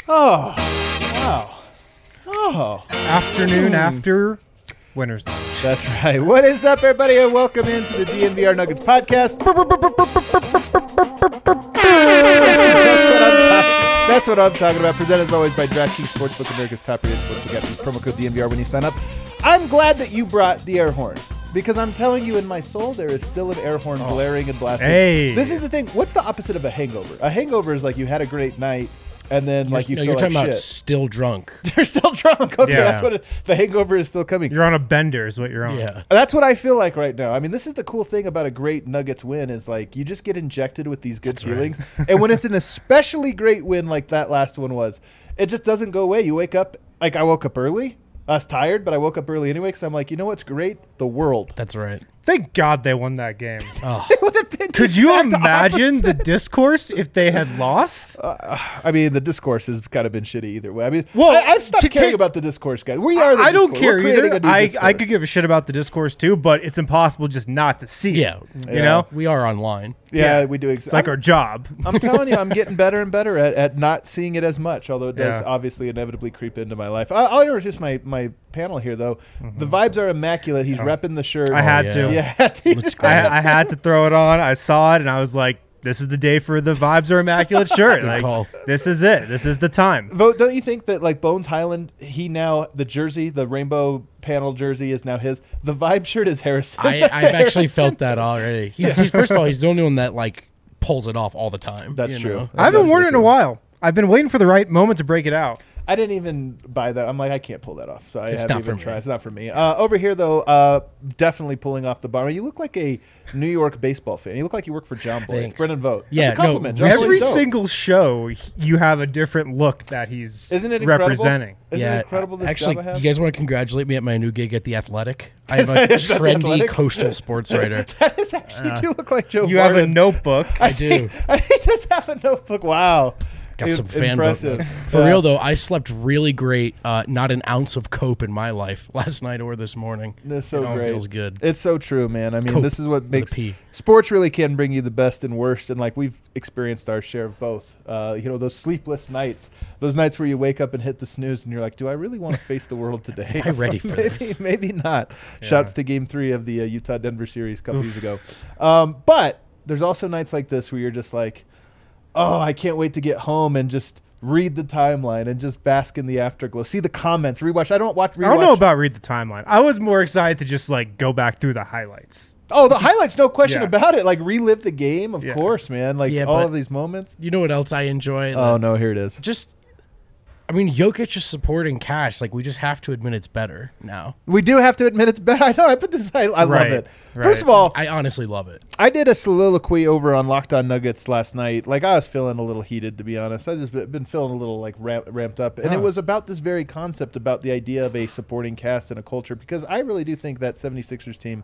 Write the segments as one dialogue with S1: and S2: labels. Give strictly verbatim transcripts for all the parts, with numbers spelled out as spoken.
S1: Oh, wow. Oh.
S2: Afternoon after winner's lunch.
S1: That's right. What is up, everybody, and welcome into the D N V R Nuggets podcast. That's what I'm talking, that's what I'm talking about. Presented as always by DraftKings Sportsbook, America's top-rated sportsbook app. Use promo code D N V R when you sign up. I'm glad that you brought the air horn. Because I'm telling you, in my soul, there is still an air horn oh. blaring and blasting.
S2: Hey.
S1: This is the thing. What's the opposite of a hangover? A hangover is like you had a great night, and then
S3: you're,
S1: like you
S3: no,
S1: feel
S3: you're
S1: like
S3: talking
S1: shit.
S3: about still drunk.
S1: They're still drunk. Okay,
S2: Yeah.
S1: that's what it, the hangover is still coming.
S2: You're on a bender is what you're on.
S3: Yeah.
S1: That's what I feel like right now. I mean, this is the cool thing about a great Nuggets win is like you just get injected with these good
S3: That's
S1: feelings. And when it's an especially great win like that last one was, it just doesn't go away. You wake up, like I woke up early. I was tired, but I woke up early anyway because I'm like, you know what's great? The world.
S3: That's right.
S2: Thank God they won that game.
S3: Oh.
S1: It would have been the
S2: Could you
S1: exact
S2: imagine the
S1: opposite.
S2: discourse if they had lost?
S1: Uh, I mean, the discourse has kind of been shitty either way. I mean,
S2: Well,
S1: I, I've stopped
S2: to
S1: caring
S2: take-
S1: about the discourse, guys. We are the
S2: I don't
S1: discourse.
S2: care
S1: We're creating
S2: either.
S1: a new
S2: I,
S1: discourse.
S2: I could give a shit about the discourse too, but it's impossible just not to see it.
S3: Yeah.
S2: You
S1: Yeah.
S2: know?
S3: We are online.
S1: Yeah,
S2: Yeah.
S1: we do. Ex-
S2: It's like
S1: I'm,
S2: our job.
S1: I'm telling you, I'm getting better and better at, at not seeing it as much, although it does
S2: Yeah.
S1: obviously inevitably creep into my life. I, I'll introduce my, my panel here, though. The vibes are immaculate. He's
S2: Oh.
S1: repping the shirt.
S2: I had
S3: yeah.
S2: to.
S1: Yeah, he
S3: Looks
S1: just-
S3: great.
S2: I, I had to throw it on. I saw it and I was like, this is the day for the vibes are immaculate shirt.
S3: Good
S2: Like,
S3: call.
S2: this is it. This is the time.
S1: Vote, don't you think that like Bones Highland, he now the jersey, the rainbow panel jersey is now his. The vibe shirt is Harrison.
S3: I,
S1: That's the
S3: I've actually
S1: Harrison.
S3: felt that already. He's, he's first of all, he's the only one that like pulls it off all the time.
S1: That's
S3: you
S1: true.
S3: know?
S1: That's
S2: I haven't worn it in a
S1: absolutely true.
S2: while. I've been waiting for the right moment to break it out.
S1: I didn't even buy that. I'm like, I can't pull that off. So I
S3: It's
S1: haven't
S3: not
S1: even
S3: for me.
S1: tried. It's not for me. Uh, over here, though, uh, definitely pulling off the bar. You look like a New York baseball fan. You look like you work for John Boy. It's
S3: Thanks.
S1: Brendan Vogt.
S3: Yeah,
S1: That's a
S3: no,
S1: compliment. John
S3: recent-
S1: Boy's
S2: Every
S1: dope.
S2: single show, you have a different look that he's
S1: Isn't it incredible?
S2: representing.
S1: Isn't
S3: yeah,
S1: it incredible this
S3: actually,
S1: job I have?
S3: you guys want to congratulate me at my new gig at The Athletic? I have a
S1: Is that The
S3: trendy
S1: Athletic?
S3: coastal sports writer.
S1: That is actually, you do look like Joe
S2: You have a
S1: Barton.
S2: notebook.
S3: I do.
S1: I think does have a notebook. Wow.
S3: Got
S1: Im-
S3: some fan
S1: impressive.
S3: book. For
S1: Yeah.
S3: real though, I slept really great. Uh, not an ounce of cope in my life last night or this morning.
S1: That's so
S3: it all
S1: great.
S3: feels good.
S1: It's so true, man. I mean,
S3: Cope
S1: this is what
S3: with a
S1: makes
S3: P.
S1: sports really can bring you the best and worst, and like we've experienced our share of both. Uh, you know, those sleepless nights, those nights where you wake up and hit the snooze, and you're like, "Do I really want to face the world today?
S3: Am I ready for
S1: maybe,
S3: this?"
S1: Maybe not."
S2: Yeah.
S1: Shouts to Game Three of the uh, Utah Denver series a couple years ago. Um, but there's also nights like this where you're just like, "Oh, I can't wait to get home and just." Read the timeline and just bask in the afterglow. See the comments. Rewatch. I don't watch. Rewatch.
S2: I don't know about read the timeline. I was more excited to just like go back through the highlights.
S1: Oh, the highlights, no question
S2: Yeah.
S1: about it. Like relive the game, of
S2: Yeah.
S1: course, man. Like
S3: Yeah,
S1: all
S3: but-
S1: of these moments.
S3: You know what else I enjoy?
S1: Oh
S3: That-
S1: no, here it is.
S3: Just, I mean, Jokic is supporting Cash. Like we just have to admit it's better now.
S1: We do have to admit it's better. I know. I put this. I, I
S2: Right,
S1: love it.
S2: right.
S1: First of all,
S3: I honestly love it.
S1: I did a soliloquy over on Locked On Nuggets last night. Like I was feeling a little heated, to be honest. I just been been feeling a little like ramp, ramped up, and it
S2: Oh.
S1: was about this very concept about the idea of a supporting cast and a culture. Because I really do think that 76ers team.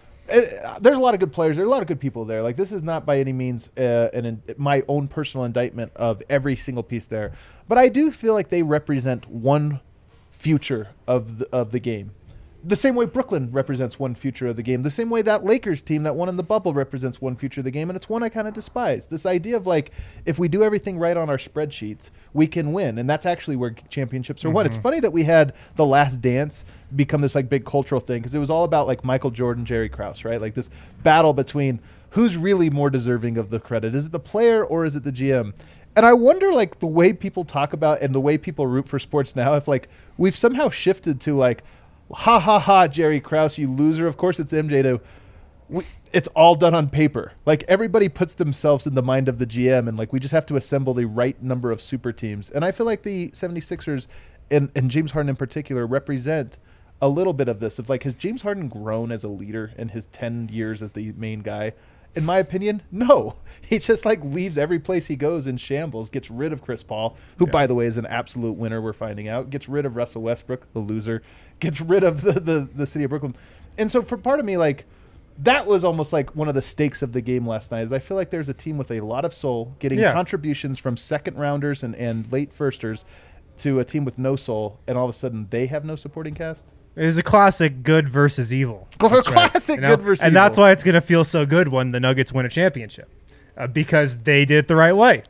S1: Uh, there's a lot of good players. There's a lot of good people there. Like this is not by any means uh, an in, my own personal indictment of every single piece there, but I do feel like they represent one future of the, of the game. The same way Brooklyn represents one future of the game. The same way that Lakers team that won in the bubble represents one future of the game, and it's one I kind of despise. This idea of like, if we do everything right on our spreadsheets, we can win, and that's actually where championships are won. It's funny that we had The Last Dance become this like big cultural thing because it was all about like Michael Jordan, Jerry Krause, right? Like this battle between who's really more deserving of the credit. Is it the player or is it the G M? And I wonder, like, the way people talk about and the way people root for sports now, if like we've somehow shifted to like, ha ha ha, Jerry Krause, you loser. Of course, it's M J to. We, it's all done on paper. Like everybody puts themselves in the mind of the G M, and like we just have to assemble the right number of super teams. And I feel like the 76ers and, and James Harden in particular represent a little bit of this. Of like, has James Harden grown as a leader in his ten years as the main guy? In my opinion, no. He just like leaves every place he goes in shambles, gets rid of Chris Paul, who
S2: Yeah.
S1: by the way is an absolute winner, we're finding out, gets rid of Russell Westbrook, the loser, gets rid of the, the, the city of Brooklyn. And so for part of me, like, that was almost like one of the stakes of the game last night is I feel like there's a team with a lot of soul getting
S2: Yeah.
S1: contributions from second rounders and, and late firsters to a team with no soul, and all of a sudden they have no supporting cast.
S2: It was a classic good versus evil.
S1: Classic
S2: You know?
S1: good versus
S2: and
S1: evil.
S2: that's why it's going to feel so good when the Nuggets win a championship uh, because they did it the right way.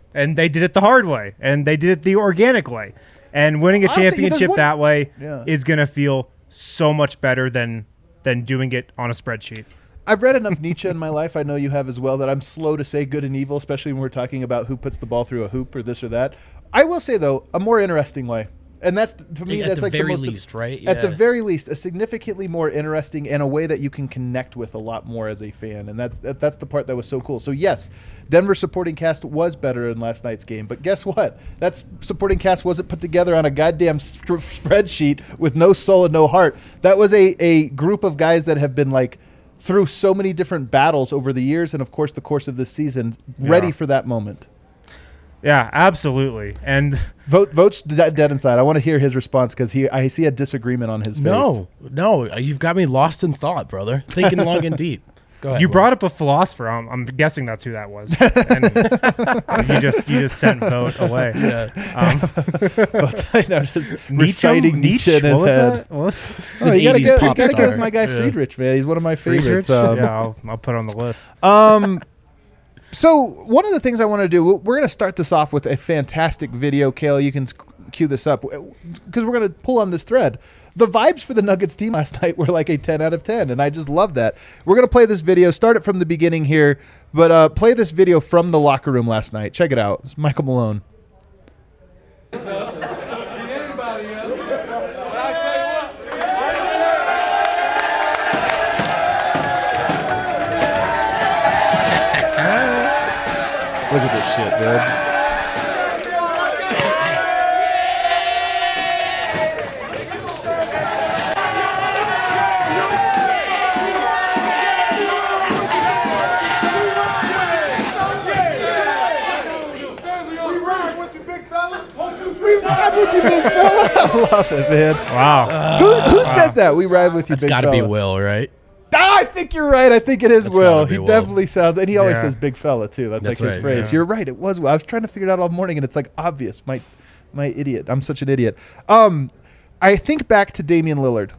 S2: and they did it the hard way, and they did it the organic way. And winning a
S1: Honestly, there's
S2: championship
S1: one-
S2: that way
S1: Yeah.
S2: is going to feel so much better than than doing it on a spreadsheet.
S1: I've read enough Nietzsche in my life, I know you have as well, that I'm slow to say good and evil, especially when we're talking about who puts the ball through a hoop or this or that. I will say, though, a more interesting way. And that's, to me,
S3: At
S1: that's
S3: the
S1: like
S3: very
S1: the most,
S3: least, right?
S1: At the
S3: Yeah.
S1: very least, a significantly more interesting and a way that you can connect with a lot more as a fan. And that's, that, that's the part that was so cool. So, yes, Denver supporting cast was better in last night's game. But guess what? That supporting cast wasn't put together on a goddamn st- spreadsheet with no soul and no heart. That was a, a group of guys that have been, like, through so many different battles over the years and, of course, the course of this season, ready
S2: Yeah.
S1: for that moment.
S2: Yeah, absolutely. And
S1: Vote, vote's dead, dead inside. I want to hear his response because he, I see a disagreement on his face.
S3: No, no, you've got me lost in thought, brother. Thinking long and deep. Go ahead.
S2: you
S3: Will.
S2: brought up a philosopher. I'm, I'm guessing that's who that was. And you just you just sent vote away.
S3: Yeah.
S2: Um,
S1: I'm just reciting Nietzsche in his
S2: what was
S1: head.
S2: that? What?
S3: It's
S1: Oh,
S3: an
S1: you gotta
S3: eighties
S1: give, you
S3: pop
S1: gotta
S3: star.
S1: give my guy
S3: Yeah.
S1: Friedrich, man. He's one of my favorites.
S2: Friedrich?
S1: Um,
S2: yeah, I'll, I'll put it on the list.
S1: um, so one of the things I want to do, we're going to start this off with a fantastic video. Kale, you can cue this up because we're going to pull on this thread. The vibes for the Nuggets team last night were like a ten out of ten, and I just love that. We're going to play this video, start it from the beginning here, but uh, play this video from the locker room last night. Check it out. It's Michael Malone. Look at this shit, dude. We ride with you, big fella. I love it, man.
S2: Wow.
S1: Who, who says that? We ride with you,
S3: That's
S1: big
S3: got to
S1: fella.
S3: be Will, right?
S1: Ah, I think you're right. I think it is
S3: That's
S1: Will.
S3: gotta be
S1: He
S3: Will.
S1: definitely sounds, and he always
S2: Yeah.
S1: says "big fella" too. That's,
S3: That's
S1: like his
S3: right,
S1: phrase.
S2: yeah.
S1: You're right. It was Will. I was trying to figure it out all morning, and it's like obvious. My, my idiot. I'm such an idiot. Um, I think back to Damian Lillard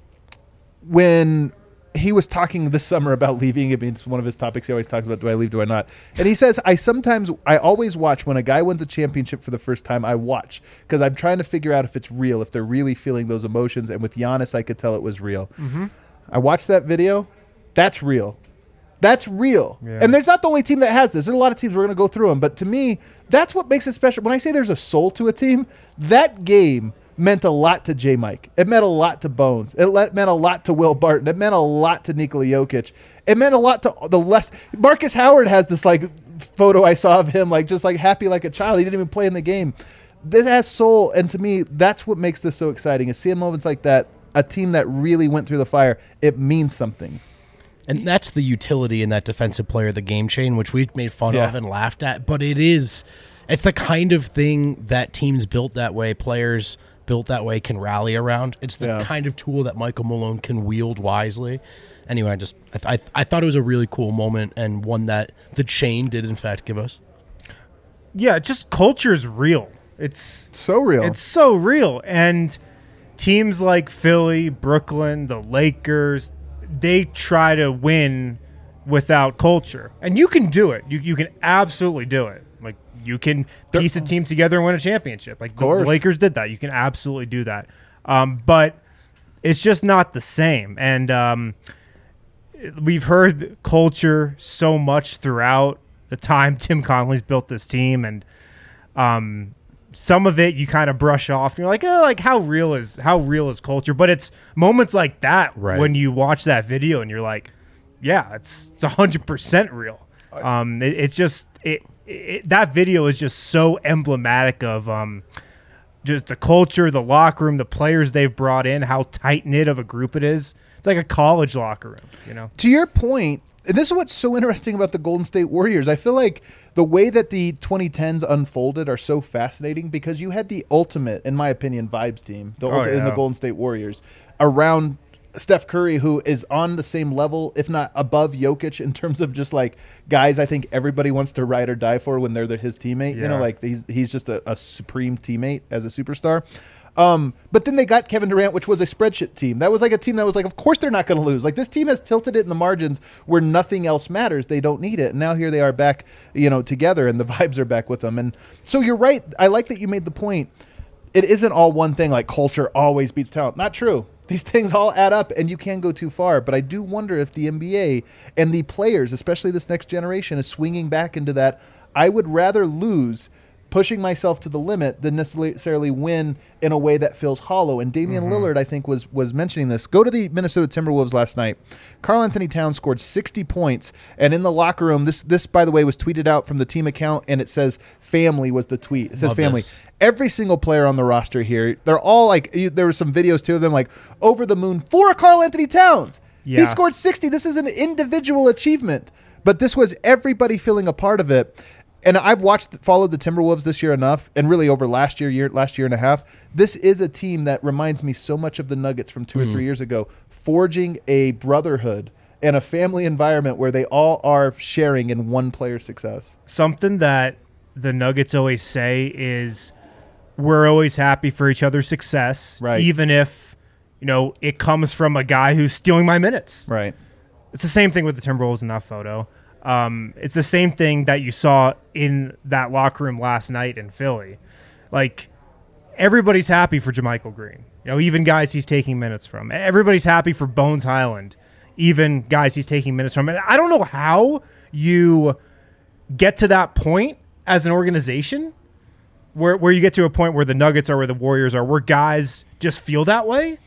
S1: when he was talking this summer about leaving. I mean, it's one of his topics. He always talks about, do I leave, do I not? And he says, I sometimes, I always watch when a guy wins a championship for the first time, I watch because I'm trying to figure out if it's real, if they're really feeling those emotions. And with Giannis, I could tell it was real. Mm-hmm. I watched that video. That's real. That's real.
S2: Yeah.
S1: And there's not the only team that has this. There's a lot of teams. We're going to go through them. But to me, that's what makes it special. When I say there's a soul to a team, that game meant a lot to J. Mike. It meant a lot to Bones. It le- meant a lot to Will Barton. It meant a lot to Nikola Jokic. It meant a lot to the less. Marcus Howard has this like photo I saw of him like just like happy like a child. He didn't even play in the game. This has soul, and to me, that's what makes this so exciting. Is seeing moments like that. A team that really went through the fire. It means something.
S3: And that's the utility in that defensive player of the game chain, which we've made fun
S1: Yeah.
S3: of and laughed at. But it is, it's the kind of thing that teams built that way, players built that way can rally around. It's the
S1: Yeah.
S3: kind of tool that Michael Malone can wield wisely. Anyway, I just I, th- I, th- I thought it was a really cool moment and one that the chain did in fact give us.
S2: Yeah, just culture is real. It's
S1: So real.
S2: It's so real. And teams like Philly, Brooklyn, the Lakers, they try to win without culture. And you can do it. You you can absolutely do it. Like you can piece a team together and win a championship. Like the
S1: course.
S2: Lakers did that. You can absolutely do that. Um, but it's just not the same. And um, we've heard culture so much throughout the time Tim Connelly's built this team, and um, some of it you kind of brush off. And you're like, oh, like how real is how real is culture? But it's moments like that
S3: Right.
S2: when you watch that video and you're like, yeah, it's it's a hundred percent real. Um, it, it's just it, it that video is just so emblematic of um, just the culture, the locker room, the players they've brought in, how tight knit of a group it is. It's like a college locker room, you know.
S1: To your point, and this is what's so interesting about the Golden State Warriors. I feel like the way that the twenty tens unfolded are so fascinating because you had the ultimate, in my opinion, vibes team the
S2: Oh,
S1: ulti- in the
S2: yeah.
S1: Golden State Warriors around Steph Curry, who is on the same level, if not above Jokic, in terms of just like guys I think everybody wants to ride or die for when they're the, his teammate. You know,
S2: Yeah.
S1: like he's, he's just a, a supreme teammate as a superstar. Um, but then they got Kevin Durant, which was a spreadsheet team. That was like a team that was like, of course they're not going to lose. Like this team has tilted it in the margins where nothing else matters. They don't need it. And now here they are back, you know, together, and the vibes are back with them. And so you're right. I like that you made the point. It isn't all one thing, like culture always beats talent. Not true. These things all add up, and you can go too far. But I do wonder if the N B A and the players, especially this next generation, is swinging back into that. I would rather lose pushing myself to the limit than necessarily win in a way that feels hollow. And Damian mm-hmm. Lillard, I think, was was mentioning this. Go to the Minnesota Timberwolves last night. Karl Anthony Towns scored sixty points, and in the locker room, this, this by the way, was tweeted out from the team account, and it says family was the tweet. It says
S3: Love
S1: family.
S3: This.
S1: Every single player on the roster here, they're all like, there were some videos too of them like over the moon for Karl Anthony Towns. Yeah. He scored sixty. This is an individual achievement, but this was everybody feeling a part of it. And I've watched, followed the Timberwolves this year enough, and really over last year, year, last year and a half. This is a team that reminds me so much of the Nuggets from two mm. or three years ago, forging a brotherhood and a family environment where they all are sharing in one player's success.
S2: Something that the Nuggets always say is we're always happy for each other's success,
S1: right.
S2: even if, you know, it comes from a guy who's stealing my minutes.
S1: Right.
S2: It's the same thing with the Timberwolves in that photo. Um, it's the same thing that you saw in that locker room last night in Philly. Like, everybody's happy for JaMychal Green. You know, even guys he's taking minutes from. Everybody's happy for Bones Highland, even guys he's taking minutes from. And I don't know how you get to that point as an organization where where you get to a point where the Nuggets are, where the Warriors are, where guys just feel that way.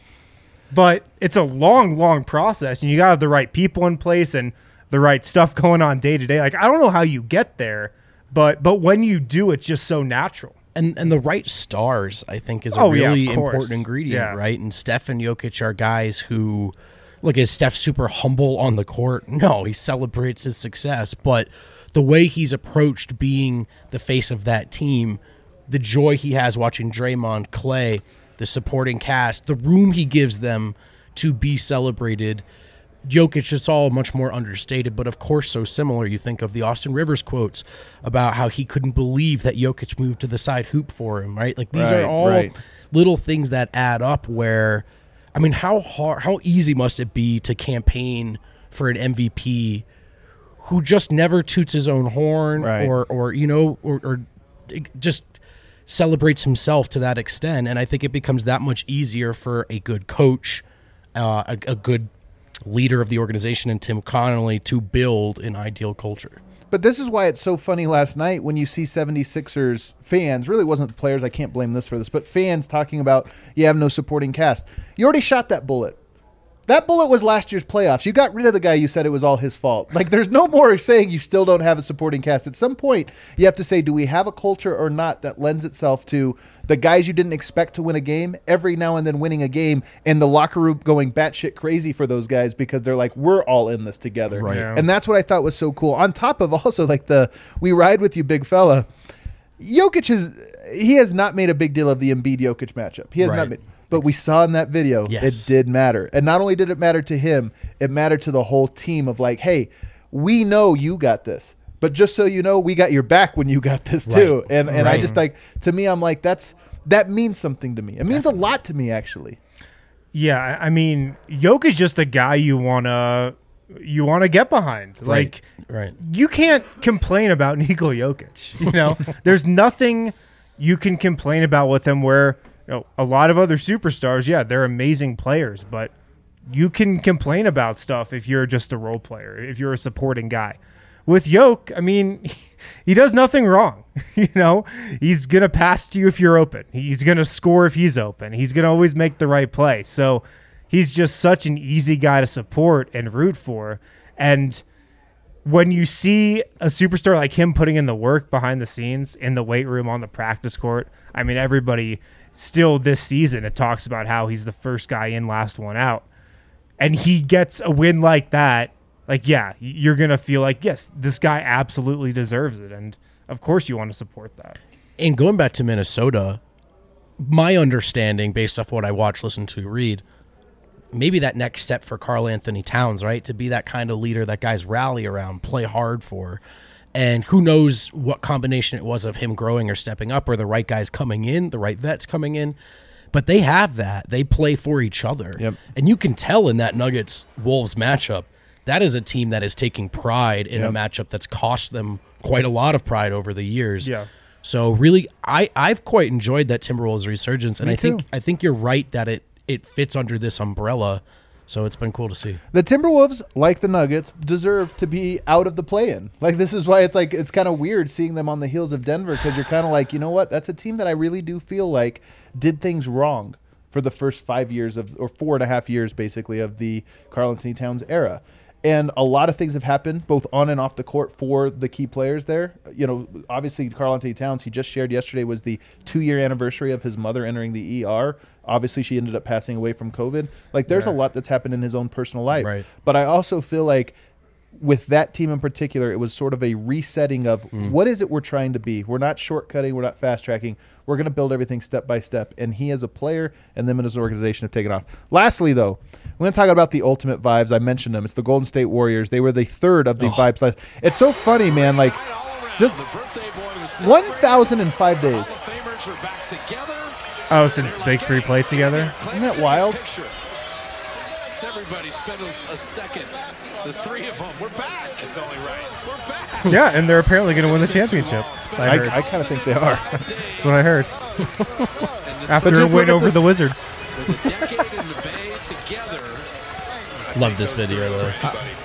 S2: But it's a long, long process, and you got to have the right people in place and the right stuff going on day to day. Like, I don't know how you get there, but but when you do, it's just so natural.
S3: And and the right stars, I think, is a
S2: oh,
S3: really
S2: yeah,
S3: important ingredient,
S2: yeah.
S3: right? And Steph and Jokic are guys who, look, is Steph super humble on the court? No, he celebrates his success. But the way he's approached being the face of that team, the joy he has watching Draymond, Klay, the supporting cast, the room he gives them to be celebrated. Jokic, it's all much more understated, but of course so similar. You think of the Austin Rivers quotes about how he couldn't believe that Jokic moved to the side hoop for him, right? Like, these
S1: right,
S3: are all
S1: right.
S3: little things that add up where, I mean, how hard, how easy must it be to campaign for an M V P who just never toots his own horn
S1: right.
S3: or, or, you know, or, or just celebrates himself to that extent. And I think it becomes that much easier for a good coach, uh, a, a good leader of the organization, and Tim Connolly to build an ideal culture.
S1: But this is why it's so funny last night when you see seventy-sixers fans, really wasn't the players, I can't blame this for this, but fans talking about you have no supporting cast. You already shot that bullet. That bullet was last year's playoffs. You got rid of the guy you said it was all his fault. Like, there's no more saying you still don't have a supporting cast. At some point, you have to say, do we have a culture or not that lends itself to the guys you didn't expect to win a game every now and then winning a game, and the locker room going batshit crazy for those guys because they're like, we're all in this together.
S3: Right.
S2: Yeah.
S1: And that's what I thought was so cool. On top of also like the we ride with you, big fella. Jokic is he has not made a big deal of the Embiid Jokic matchup. He has
S3: Right.
S1: not made. But we saw in that video,
S3: Yes.
S1: it did matter. And not only did it matter to him, it mattered to the whole team of like, hey, we know you got this. But just so you know, we got your back when you got this too.
S3: Right.
S1: And and I
S3: Right.
S1: just like, to me, I'm like, that's that means something to me. It means a lot to me, actually.
S2: Yeah, I mean, Jokic is just a guy you wanna you wanna get behind. Like,
S3: Right.
S2: you can't complain about Nikola Jokic. You know, there's nothing you can complain about with him. Where, you know, a lot of other superstars, yeah, they're amazing players, but you can complain about stuff if you're just a role player, if you're a supporting guy. With Jokic, I mean, he does nothing wrong. You know, he's going to pass to you if you're open. He's going to score if he's open. He's going to always make the right play. So he's just such an easy guy to support and root for. And when you see a superstar like him putting in the work behind the scenes, in the weight room, on the practice court, I mean, everybody still this season, it talks about how he's the first guy in, last one out. And he gets a win like that. Like, yeah, you're going to feel like, yes, this guy absolutely deserves it. And, of course, you want to support that.
S3: And going back to Minnesota, my understanding, based off what I watched, listened to, read, maybe that next step for Karl Anthony Towns, right, to be that kind of leader that guys rally around, play hard for. And who knows what combination it was of him growing or stepping up, or the right guys coming in, the right vets coming in. but they have that. They play for each other.
S1: Yep.
S3: And you can tell in that Nuggets-Wolves matchup, that is a team that is taking pride in
S1: Yep.
S3: a matchup that's cost them quite a lot of pride over the years.
S2: Yeah.
S3: So really, I, I've quite enjoyed that Timberwolves resurgence, and
S1: Me
S3: I think
S1: too.
S3: I think you're right that it, it fits under this umbrella. So it's been cool to see.
S1: The Timberwolves, like the Nuggets, deserve to be out of the play-in. Like, this is why it's like it's kind of weird seeing them on the heels of Denver, because you're kind of like, you know what? That's a team that I really do feel like did things wrong for the first five years of, or four and a half years, basically, of the Karl-Anthony Towns era. And a lot of things have happened, both on and off the court, for the key players there. You know, obviously, Karl-Anthony Towns, he just shared yesterday, was the two-year anniversary of his mother entering the E R. Obviously, she ended up passing away from COVID. Like, there's
S2: Yeah.
S1: a lot that's happened in his own personal life.
S3: Right.
S1: But I also feel like with that team in particular, it was sort of a resetting of
S3: Mm.
S1: what is it we're trying to be. We're not shortcutting. We're not fast-tracking. We're going to build everything step by step. And he as a player and them as an organization have taken off. Lastly, though, we're going to talk about the ultimate vibes. I mentioned them. It's the Golden State Warriors. They were the third of the
S3: Oh.
S1: vibes. Last. It's so funny, man. Like, just one thousand five days.
S2: Oh, since the big three played together?
S1: Isn't that wild?
S4: Everybody spend a, a second. The three of them. We're back. It's only right. We're back.
S2: Yeah, and they're apparently going to win the championship. I
S1: I,
S2: heard.
S1: I kind of think they are.
S2: That's what I heard. After
S1: But
S2: a
S1: just
S2: win
S1: look at
S2: over
S1: this-
S2: the Wizards.
S4: With a decade in the Bay together.
S3: Love this video, though.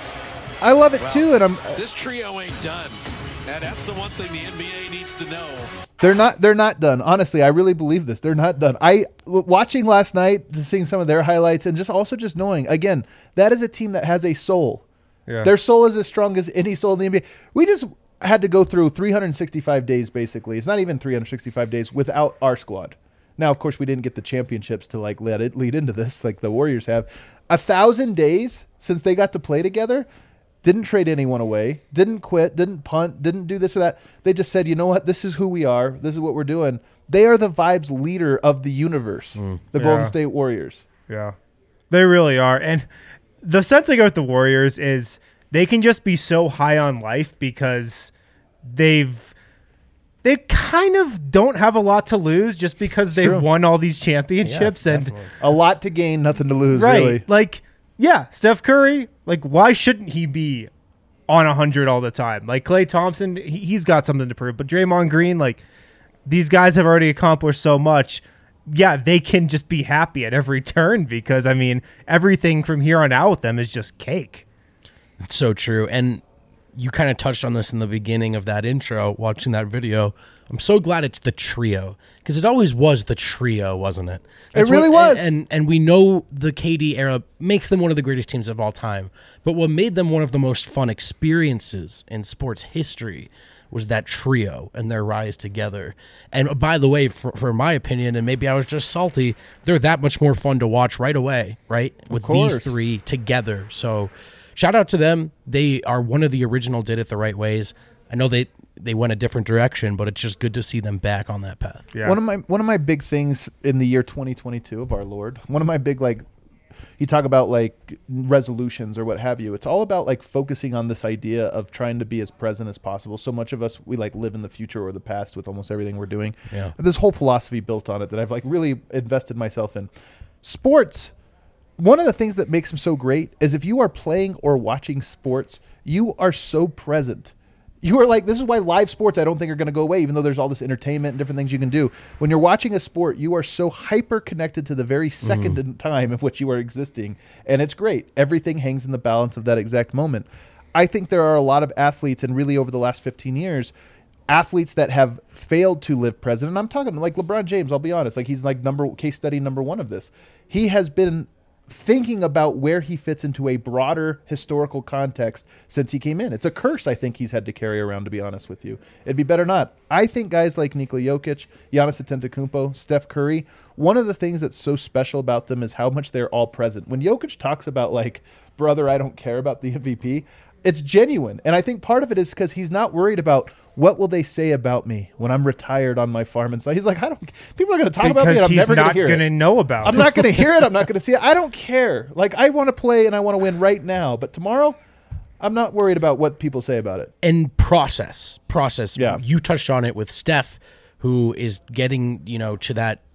S1: I love it, too. And I'm
S4: This trio ain't done. And that's the one thing the N B A needs to know.
S1: They're not. They're not done. Honestly, I really believe this. They're not done. I w- watching last night, just seeing some of their highlights, and just also just knowing again that is a team that has a soul.
S2: Yeah.
S1: Their soul is as strong as any soul in the N B A. We just had to go through three hundred sixty-five days, basically. It's not even three hundred sixty-five days without our squad. Now, of course, we didn't get the championships to like let it lead into this, like the Warriors have. A thousand days since they got to play together. Didn't trade anyone away, didn't quit, didn't punt, didn't do this or that. They just said, you know what, this is who we are, this is what we're doing. They are the vibes leader of the universe, the Golden
S2: Yeah.
S1: State Warriors.
S2: Yeah, they really are. And the sense I get with the Warriors is they can just be so high on life because they've they kind of don't have a lot to lose just because they've
S1: True.
S2: won all these championships.
S3: Yeah,
S2: and
S3: definitely.
S1: A lot to gain, nothing to lose,
S2: right,
S1: really.
S2: like yeah, Steph Curry. Like, why shouldn't he be on a hundred all the time? Like Klay Thompson, he, he's got something to prove. But Draymond Green, like these guys have already accomplished so much. Yeah, they can just be happy at every turn because I mean everything from here on out with them is just cake.
S3: It's so true. And you kind of touched on this in the beginning of that intro, watching that video. I'm so glad it's the trio because it always was the trio, wasn't it? That's
S1: really
S3: what-
S1: was.
S3: And, and and we know the K D era makes them one of the greatest teams of all time. But what made them one of the most fun experiences in sports history was that trio and their rise together. And by the way, for, for my opinion, and maybe I was just salty, they're that much more fun to watch right away, right? With these
S1: course.
S3: three together. So shout out to them. They are one of the original did it the right ways. I know they they went a different direction, but it's just good to see them back on that path.
S2: Yeah,
S1: One of my one of my big things in the year twenty twenty-two of our Lord, one of my big, like, you talk about like resolutions or what have you. It's all about like focusing on this idea of trying to be as present as possible. So much of us, we like live in the future or the past with almost everything we're doing.
S3: Yeah.
S1: This whole philosophy built on it that I've like really invested myself in. Sports, one of the things that makes them so great is if you are playing or watching sports, you are so present. You are like, this is why live sports I don't think are going to go away, even though there's all this entertainment and different things you can do. When you're watching a sport, you are so hyper connected to the very second in time of which you are existing. And it's great. Everything hangs in the balance of that exact moment. I think there are a lot of athletes, and really over the last fifteen years, athletes that have failed to live present. And I'm talking like LeBron James, I'll be honest. Like he's like number case study number one of this. He has been thinking about where he fits into a broader historical context since he came in. It's a curse I think he's had to carry around, to be honest with you. It'd be better not. I think guys like Nikola Jokic, Giannis Antetokounmpo, Steph Curry, one of the things that's so special about them is how much they're all present. When Jokic talks about like, brother, I don't care about the M V P, it's genuine. And I think part of it is because he's not worried about what will they say about me when I'm retired on my farm and so he's like, I don't. People are going to talk about me, and
S2: because
S1: I'm
S2: he's
S1: never going to
S2: not
S1: hear
S2: going
S1: it.
S2: to know about
S1: I'm
S2: it.
S1: not going to hear it. I'm not going to see it. I don't care. Like I want to play and I want to win right now. But tomorrow, I'm not worried about what people say about it.
S3: And process, process.
S1: Yeah.
S3: You touched on it with Steph, who is getting, you know, to that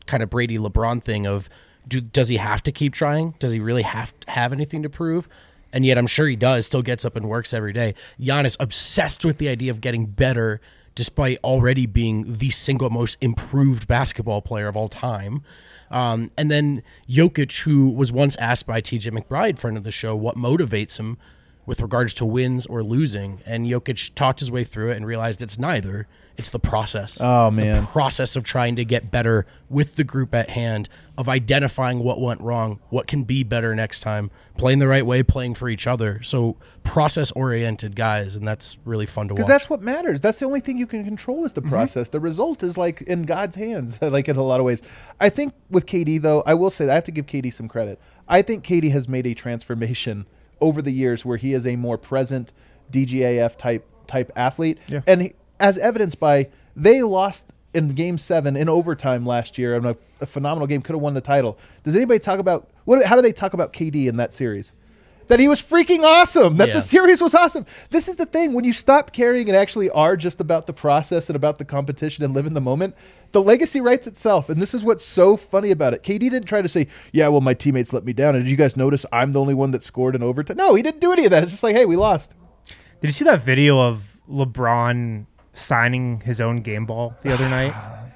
S3: kind of Brady LeBron thing of, do, does he have to keep trying? Does he really have to have anything to prove? And yet I'm sure he does, still gets up and works every day. Giannis obsessed with the idea of getting better despite already being the single most improved basketball player of all time. Um, and then Jokic, who was once asked by T J McBride, friend of the show, what motivates him with regards to wins or losing. And Jokic talked his way through it and realized it's neither. It's the process.
S1: Oh, man.
S3: The process of trying to get better with the group at hand, of identifying what went wrong, what can be better next time, playing the right way, playing for each other. So process-oriented guys, and that's really fun to watch.
S1: Because that's what matters. That's the only thing you can control is the process. Mm-hmm. The result is like in God's hands, like in a lot of ways. I think with K D, though, I will say that I have to give K D some credit. I think K D has made a transformation over the years where he is a more present D G A F type type athlete. Yeah. And he, as evidenced by they lost in game seven in overtime last year in a, a phenomenal game, could have won the title. Does anybody talk about what? How do they talk about K D in that series? That he was freaking awesome, that
S3: yeah.
S1: the series was awesome. This is the thing. When you stop caring and actually are just about the process and about the competition and live in the moment, the legacy writes itself. And this is what's so funny about it. K D didn't try to say, yeah, well, my teammates let me down. And did you guys notice I'm the only one that scored in overtime? No, he didn't do any of that. It's just like, hey, we lost.
S2: Did you see that video of LeBron signing his own game ball the other night?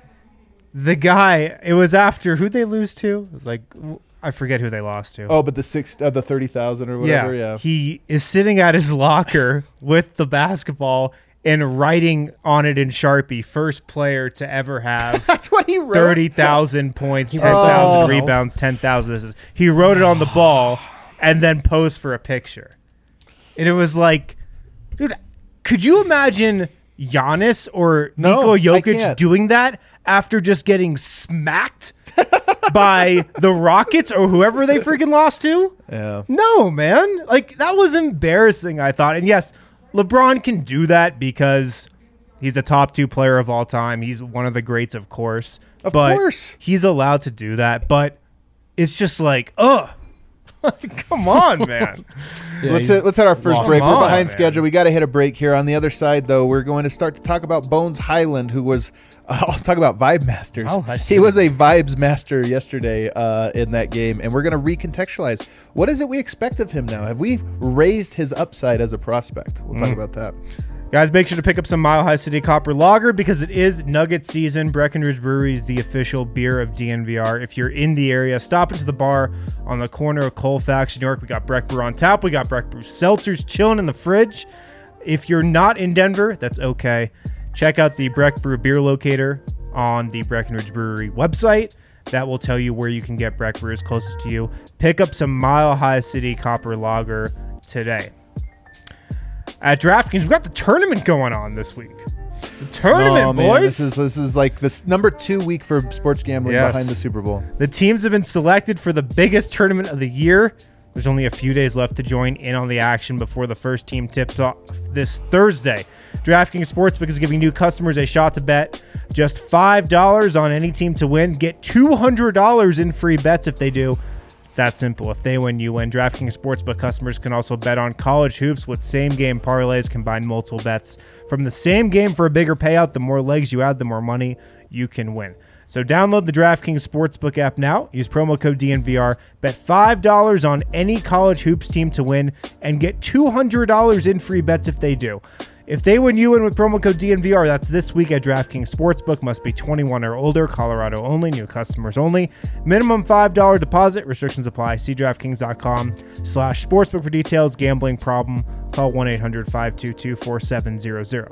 S2: The guy, it was after, who'd they lose to? Like, I forget who they lost to.
S1: Oh, but the six, uh, the thirty thousand or whatever. Yeah. yeah.
S2: He is sitting at his locker with the basketball and writing on it in Sharpie, first player to ever have
S1: That's what he wrote.
S2: thirty thousand points, ten thousand
S1: oh.
S2: rebounds, ten thousand assists. He wrote it on the ball and then posed for a picture. And it was like, dude, could you imagine Giannis or
S1: No,
S2: Nikola
S1: I
S2: Jokic
S1: can't.
S2: doing that after just getting smacked by the Rockets or whoever they freaking lost to?
S1: Yeah.
S2: No, man. Like, that was embarrassing, I thought. And yes, LeBron can do that because he's a top two player of all time. He's one of the greats, of course.
S1: Of
S2: but
S1: course.
S2: He's allowed to do that. But it's just like, ugh. Come on, man.
S3: Yeah,
S1: let's
S3: he's
S1: hit, let's hit our first
S3: lost.
S1: break.
S2: Come
S1: We're
S2: on,
S1: behind
S2: man.
S1: schedule. We got to hit a break here. On the other side, though, we're going to start to talk about Bones Highland, who was uh, I'll talk about Vibe Masters.
S3: Oh, I see.
S1: He was a Vibes Master yesterday uh, in that game, and we're going to recontextualize. What is it we expect of him now? Have we raised his upside as a prospect? We'll talk
S2: Mm.
S1: about that.
S2: Guys, make sure to pick up some Mile High City Copper Lager because it is Nugget season. Breckenridge Brewery is the official beer of D N V R. If you're in the area, stop into the bar on the corner of Colfax, New York. We got Breck Brew on tap. We got Breck Brew seltzers chilling in the fridge. If you're not in Denver, that's okay. Check out the Breck Brew beer locator on the Breckenridge Brewery website. That will tell you where you can get Breck Brews closest to you. Pick up some Mile High City Copper Lager today. At DraftKings, we've got the tournament going on this week. The tournament,
S1: oh, man,
S2: boys.
S1: This is this is like this number two week for sports gambling
S2: Yes.
S1: behind the Super Bowl.
S2: The teams have been selected for the biggest tournament of the year. There's only a few days left to join in on the action before the first team tips off this Thursday. DraftKings Sportsbook is giving new customers a shot to bet just five dollars on any team to win. Get two hundred dollars in free bets if they do. It's that simple. If they win, you win. DraftKings Sportsbook customers can also bet on college hoops with same-game parlays, combine multiple bets from the same game for a bigger payout. The more legs you add, the more money you can win. So download the DraftKings Sportsbook app now. Use promo code D N V R. Bet five dollars on any college hoops team to win and get two hundred dollars in free bets if they do. If they win, you win with promo code D N V R. That's this week at DraftKings Sportsbook. Must be twenty-one or older. Colorado only. New customers only. Minimum five dollars deposit. Restrictions apply. See DraftKings.com slash sportsbook for details. Gambling problem? Call one eight hundred five two two four seven zero zero.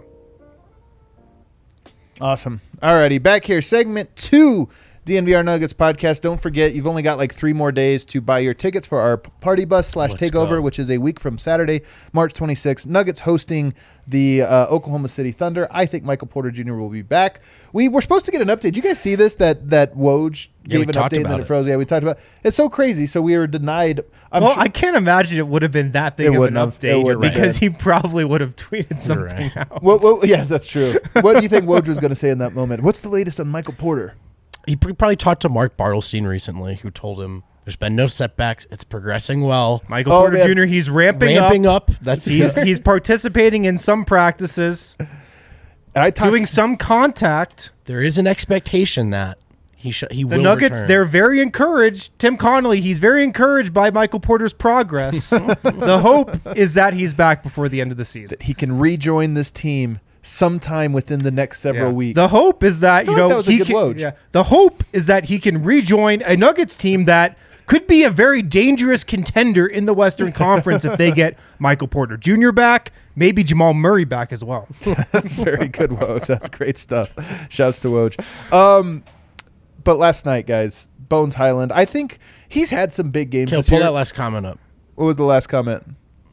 S1: Awesome. Alrighty, back here, segment two, D N V R Nuggets podcast. Don't forget, you've only got like three more days to buy your tickets for our party bus slash
S3: Let's
S1: takeover,
S3: go.
S1: which is a week from Saturday, March twenty-sixth. Nuggets hosting the uh, Oklahoma City Thunder. I think Michael Porter Junior will be back. We were supposed to get an update. Did you guys see this? That that Woj
S3: Yeah, we
S1: gave an
S3: talked
S1: update and then
S3: about
S1: it
S3: it.
S1: froze. Yeah, we talked about it. It's so crazy. So we were denied. I'm
S2: well,
S1: sure-
S2: I can't imagine it would have been that big
S1: It
S2: of an
S1: wouldn't have. It
S2: update
S1: wouldn't have
S2: because
S1: been.
S2: he probably would have tweeted
S3: You're
S2: something
S3: right.
S2: out.
S1: What, what, yeah, that's true. What do you think Woj was going to say in that moment? What's the latest on Michael Porter?
S3: He pr- probably talked to Mark Bartelstein recently, who told him there's been no setbacks. It's progressing well.
S2: Michael
S1: Oh,
S2: Porter
S1: man.
S2: Junior, he's ramping,
S3: Ramping
S2: up.
S3: up. That's
S2: He's he's participating in some practices,
S1: And I talked
S2: doing some contact.
S3: There is an expectation that He sh- he
S2: The
S3: will
S2: Nuggets,
S3: return.
S2: they're very encouraged. Tim Connolly, he's very encouraged by Michael Porter's progress. The hope is that he's back before the end of the season.
S1: He can rejoin this team sometime within the next several
S2: Yeah.
S1: weeks.
S2: The hope is that,
S1: feel
S2: you
S1: like
S2: know,
S1: that was a
S2: he
S1: good
S2: can,
S1: Woj.
S2: yeah, the hope is that he can rejoin a Nuggets team that could be a very dangerous contender in the Western Conference if they get Michael Porter Junior back, maybe Jamal Murray back as well.
S1: That's very good, Woj. That's great stuff. Shouts to Woj. Um, but last night, guys, Bones Highland, I think he's had some big games
S3: Kill,
S1: this
S3: pull
S1: year.
S3: that last comment up.
S1: What was the last comment?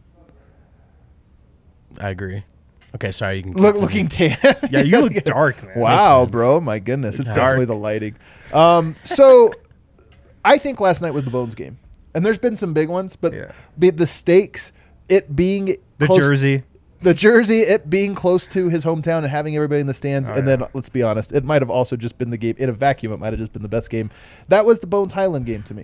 S3: I agree. Okay, sorry. You can
S1: Look,
S3: continue.
S1: looking tan.
S2: Yeah, you look dark, man.
S1: Wow, bro. My goodness. It's
S2: Dark.
S1: definitely the lighting. Um, so I think last night was the Bones game. And there's been some big ones, but
S2: Yeah.
S1: be the stakes, it being
S2: The
S1: close-
S2: jersey.
S1: The jersey, it being close to his hometown and having everybody in the stands.
S2: Oh,
S1: and
S2: yeah.
S1: then, let's be honest, it might have also just been the game. In a vacuum, it might have just been the best game. That was the Bones Highland game to me.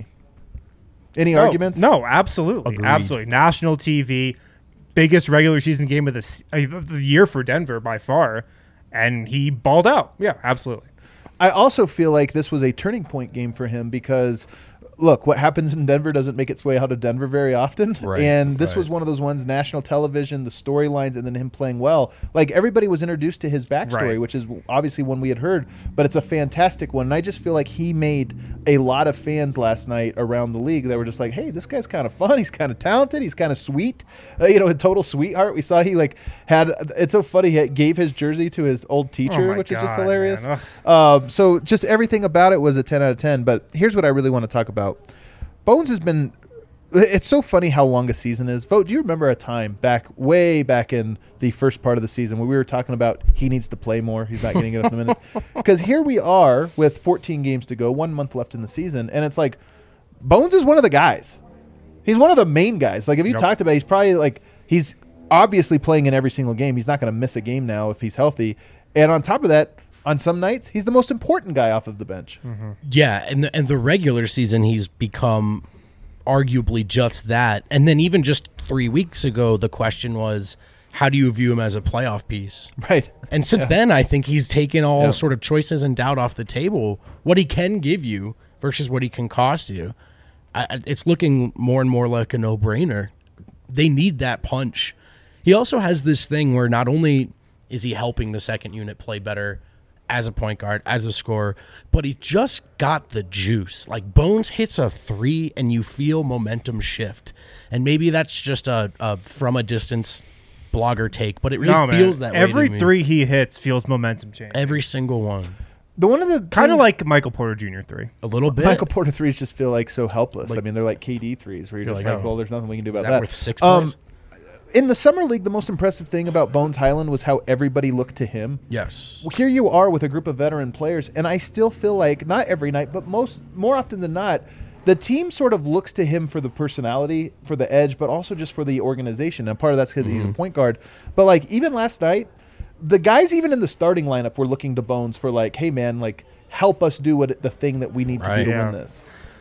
S1: Any
S2: No,
S1: arguments?
S2: No, absolutely.
S3: Agreed.
S2: Absolutely. National T V, biggest regular season game of the, s- of the year for Denver by far. And he balled out. Yeah, absolutely.
S1: I also feel like this was a turning point game for him because, look, what happens in Denver doesn't make its way out of Denver very often.
S3: Right,
S1: and this
S3: right.
S1: was one of those ones, national television, the storylines, and then him playing well. Like, everybody was introduced to his backstory,
S2: Right.
S1: which is obviously one we had heard, but it's a fantastic one. And I just feel like he made a lot of fans last night around the league that were just like, hey, this guy's kind of fun. He's kind of talented. He's kind of sweet. Uh, you know, a total sweetheart. We saw he, like, had, it's so funny, he gave his jersey to his old teacher,
S2: Oh my
S1: which is just
S2: God,
S1: hilarious.
S2: man.
S1: Um, so just everything about it was a ten out of ten. But here's what I really want to talk about. Bones has been – it's so funny how long a season is. Vote, do you remember a time back – way back in the first part of the season when we were talking about he needs to play more, he's not getting enough minutes? Because here we are with fourteen games to go, one month left in the season, and it's like Bones is one of the guys. He's one of the main guys. Like, if you
S2: Yep.
S1: talked about it, he's probably like – he's obviously playing in every single game. He's not going to miss a game now if he's healthy. And on top of that, on some nights, he's the most important guy off of the bench.
S3: Yeah, and the, and the regular season, he's become arguably just that. And then even just three weeks ago, the question was, how do you view him as a playoff piece?
S1: Right.
S3: And since then, I think he's taken all
S1: Yeah.
S3: sort of choices and doubt off the table. What he can give you versus what he can cost you, I, I- it's looking more and more like a no-brainer. They need that punch. He also has this thing where not only is he helping the second unit play better as a point guard, as a scorer, but he just got the juice. Like, Bones hits a three and you feel momentum shift. And maybe that's just a, a from a distance blogger take, but it really
S2: No, man.
S3: feels that way to
S2: Every
S3: me.
S2: three he hits feels momentum change.
S3: Every single one.
S1: The one of the
S2: Kind of
S1: things-
S2: like Michael Porter Junior three.
S3: A little bit.
S1: Michael Porter threes just feel like so helpless.
S3: Like-
S1: I mean, they're like K D threes where you're
S3: You're
S1: just
S3: like,
S1: like,
S3: oh,
S1: well, there's nothing we can do
S3: Is
S1: about
S3: that
S1: that.
S3: worth six
S1: Um,
S3: points?
S1: in the summer league, the most impressive thing about Bones Highland was how everybody looked to him.
S3: Yes.
S1: Well, here you are with a group of veteran players, and I still feel like not every night, but most more often than not, the team sort of looks to him for the personality, for the edge, but also just for the organization. And part of that's because he's a point guard. But like even last night, the guys even in the starting lineup were looking to Bones for like, hey man, like help us do what the thing that we need to
S3: Right.
S1: do to
S2: Yeah.
S1: win this.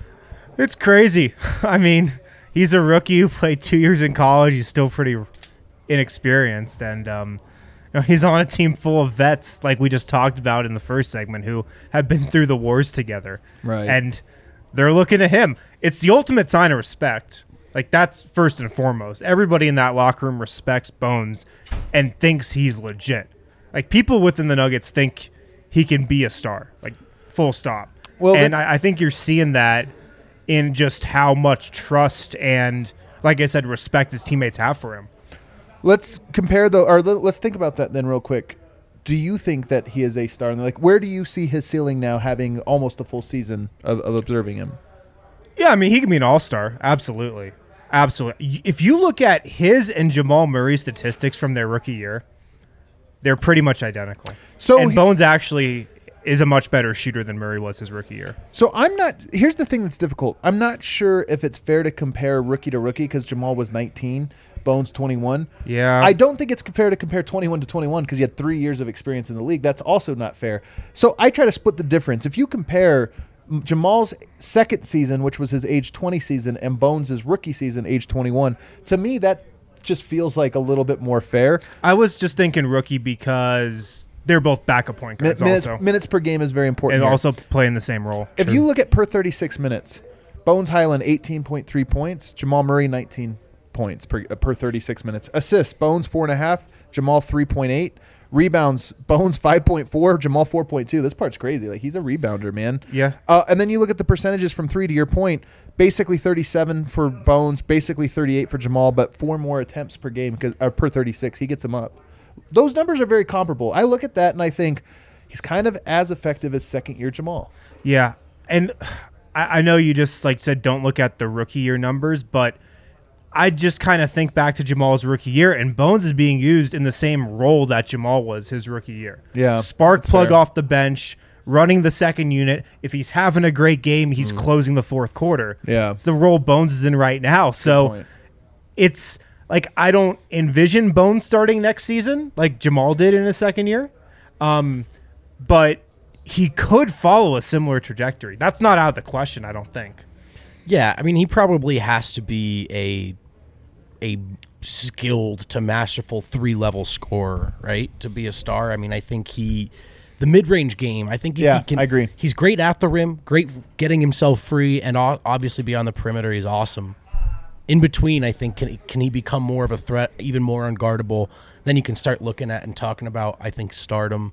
S2: It's crazy. I mean, he's a rookie who played two years in college. He's still pretty inexperienced. And um, you know, he's on a team full of vets, like we just talked about in the first segment, who have been through the wars together.
S1: Right.
S2: And they're looking at him. It's the ultimate sign of respect. Like, that's first and foremost. Everybody in that locker room respects Bones and thinks he's legit. Like, people within the Nuggets think he can be a star. Like, full stop.
S1: Well,
S2: and
S1: then-
S2: I, I think you're seeing that in just how much trust and, like I said, respect his teammates have for him.
S1: Let's compare the, or let- let's think about that then real quick. Do you think that he is a star? And like, where do you see his ceiling now, having almost a full season of, of observing him?
S2: Yeah, I mean, he can be an all-star. Absolutely. Absolutely. If you look at his and Jamal Murray's statistics from their rookie year, they're pretty much identical.
S1: So
S2: and
S1: he-
S2: Bones actually is a much better shooter than Murray was his rookie year.
S1: So I'm not. Here's the thing that's difficult. I'm not sure if it's fair to compare rookie to rookie because Jamal was nineteen, Bones twenty-one.
S2: Yeah.
S1: I don't think it's fair to compare twenty-one to twenty-one because he had three years of experience in the league. That's also not fair. So I try to split the difference. If you compare M- Jamal's second season, which was his age twenty season, and Bones' rookie season, age twenty-one, to me that just feels like a little bit more fair.
S2: I was just thinking rookie because they're both backup point
S1: Mi-
S2: guards
S1: minutes,
S2: also.
S1: minutes per game is very important.
S2: And
S1: here.
S2: also play in the same role.
S1: If you look at per thirty-six minutes, Bones Highland eighteen point three points, Jamal Murray nineteen points per, uh, per thirty-six minutes. Assists, Bones four point five, Jamal three point eight. Rebounds, Bones five point four, Jamal four point two. This part's crazy. Like, he's a rebounder, man.
S2: Yeah.
S1: Uh, and then you look at the percentages from three, to your point, basically thirty-seven for Bones, basically thirty-eight for Jamal, but four more attempts per game, because uh, per thirty-six. He gets them up. Those numbers are very comparable. I look at that and I think he's kind of as effective as second-year Jamal.
S2: Yeah. And I, I know you just like said don't look at the rookie year numbers, but I just kind of think back to Jamal's rookie year, and Bones is being used in the same role that Jamal was his rookie year.
S1: Yeah,
S2: Spark plug
S1: fair.
S2: off the bench, running the second unit. If he's having a great game, he's
S1: Mm.
S2: closing the fourth quarter.
S1: Yeah.
S2: It's the role Bones is in right now. So
S1: point.
S2: it's like I don't envision Bones starting next season like Jamal did in his second year. Um, but he could follow a similar trajectory. That's not out of the question, I don't think.
S3: Yeah, I mean, he probably has to be a a skilled to masterful three-level scorer, right, to be a star. I mean, I think he – the mid-range game, I think if
S1: Yeah,
S3: he can –
S1: I agree.
S3: He's great at the rim, great getting himself free, and o- obviously beyond the perimeter, he's awesome. In between, I think, can, can he become more of a threat, even more unguardable? Then you can start looking at and talking about, I think, stardom.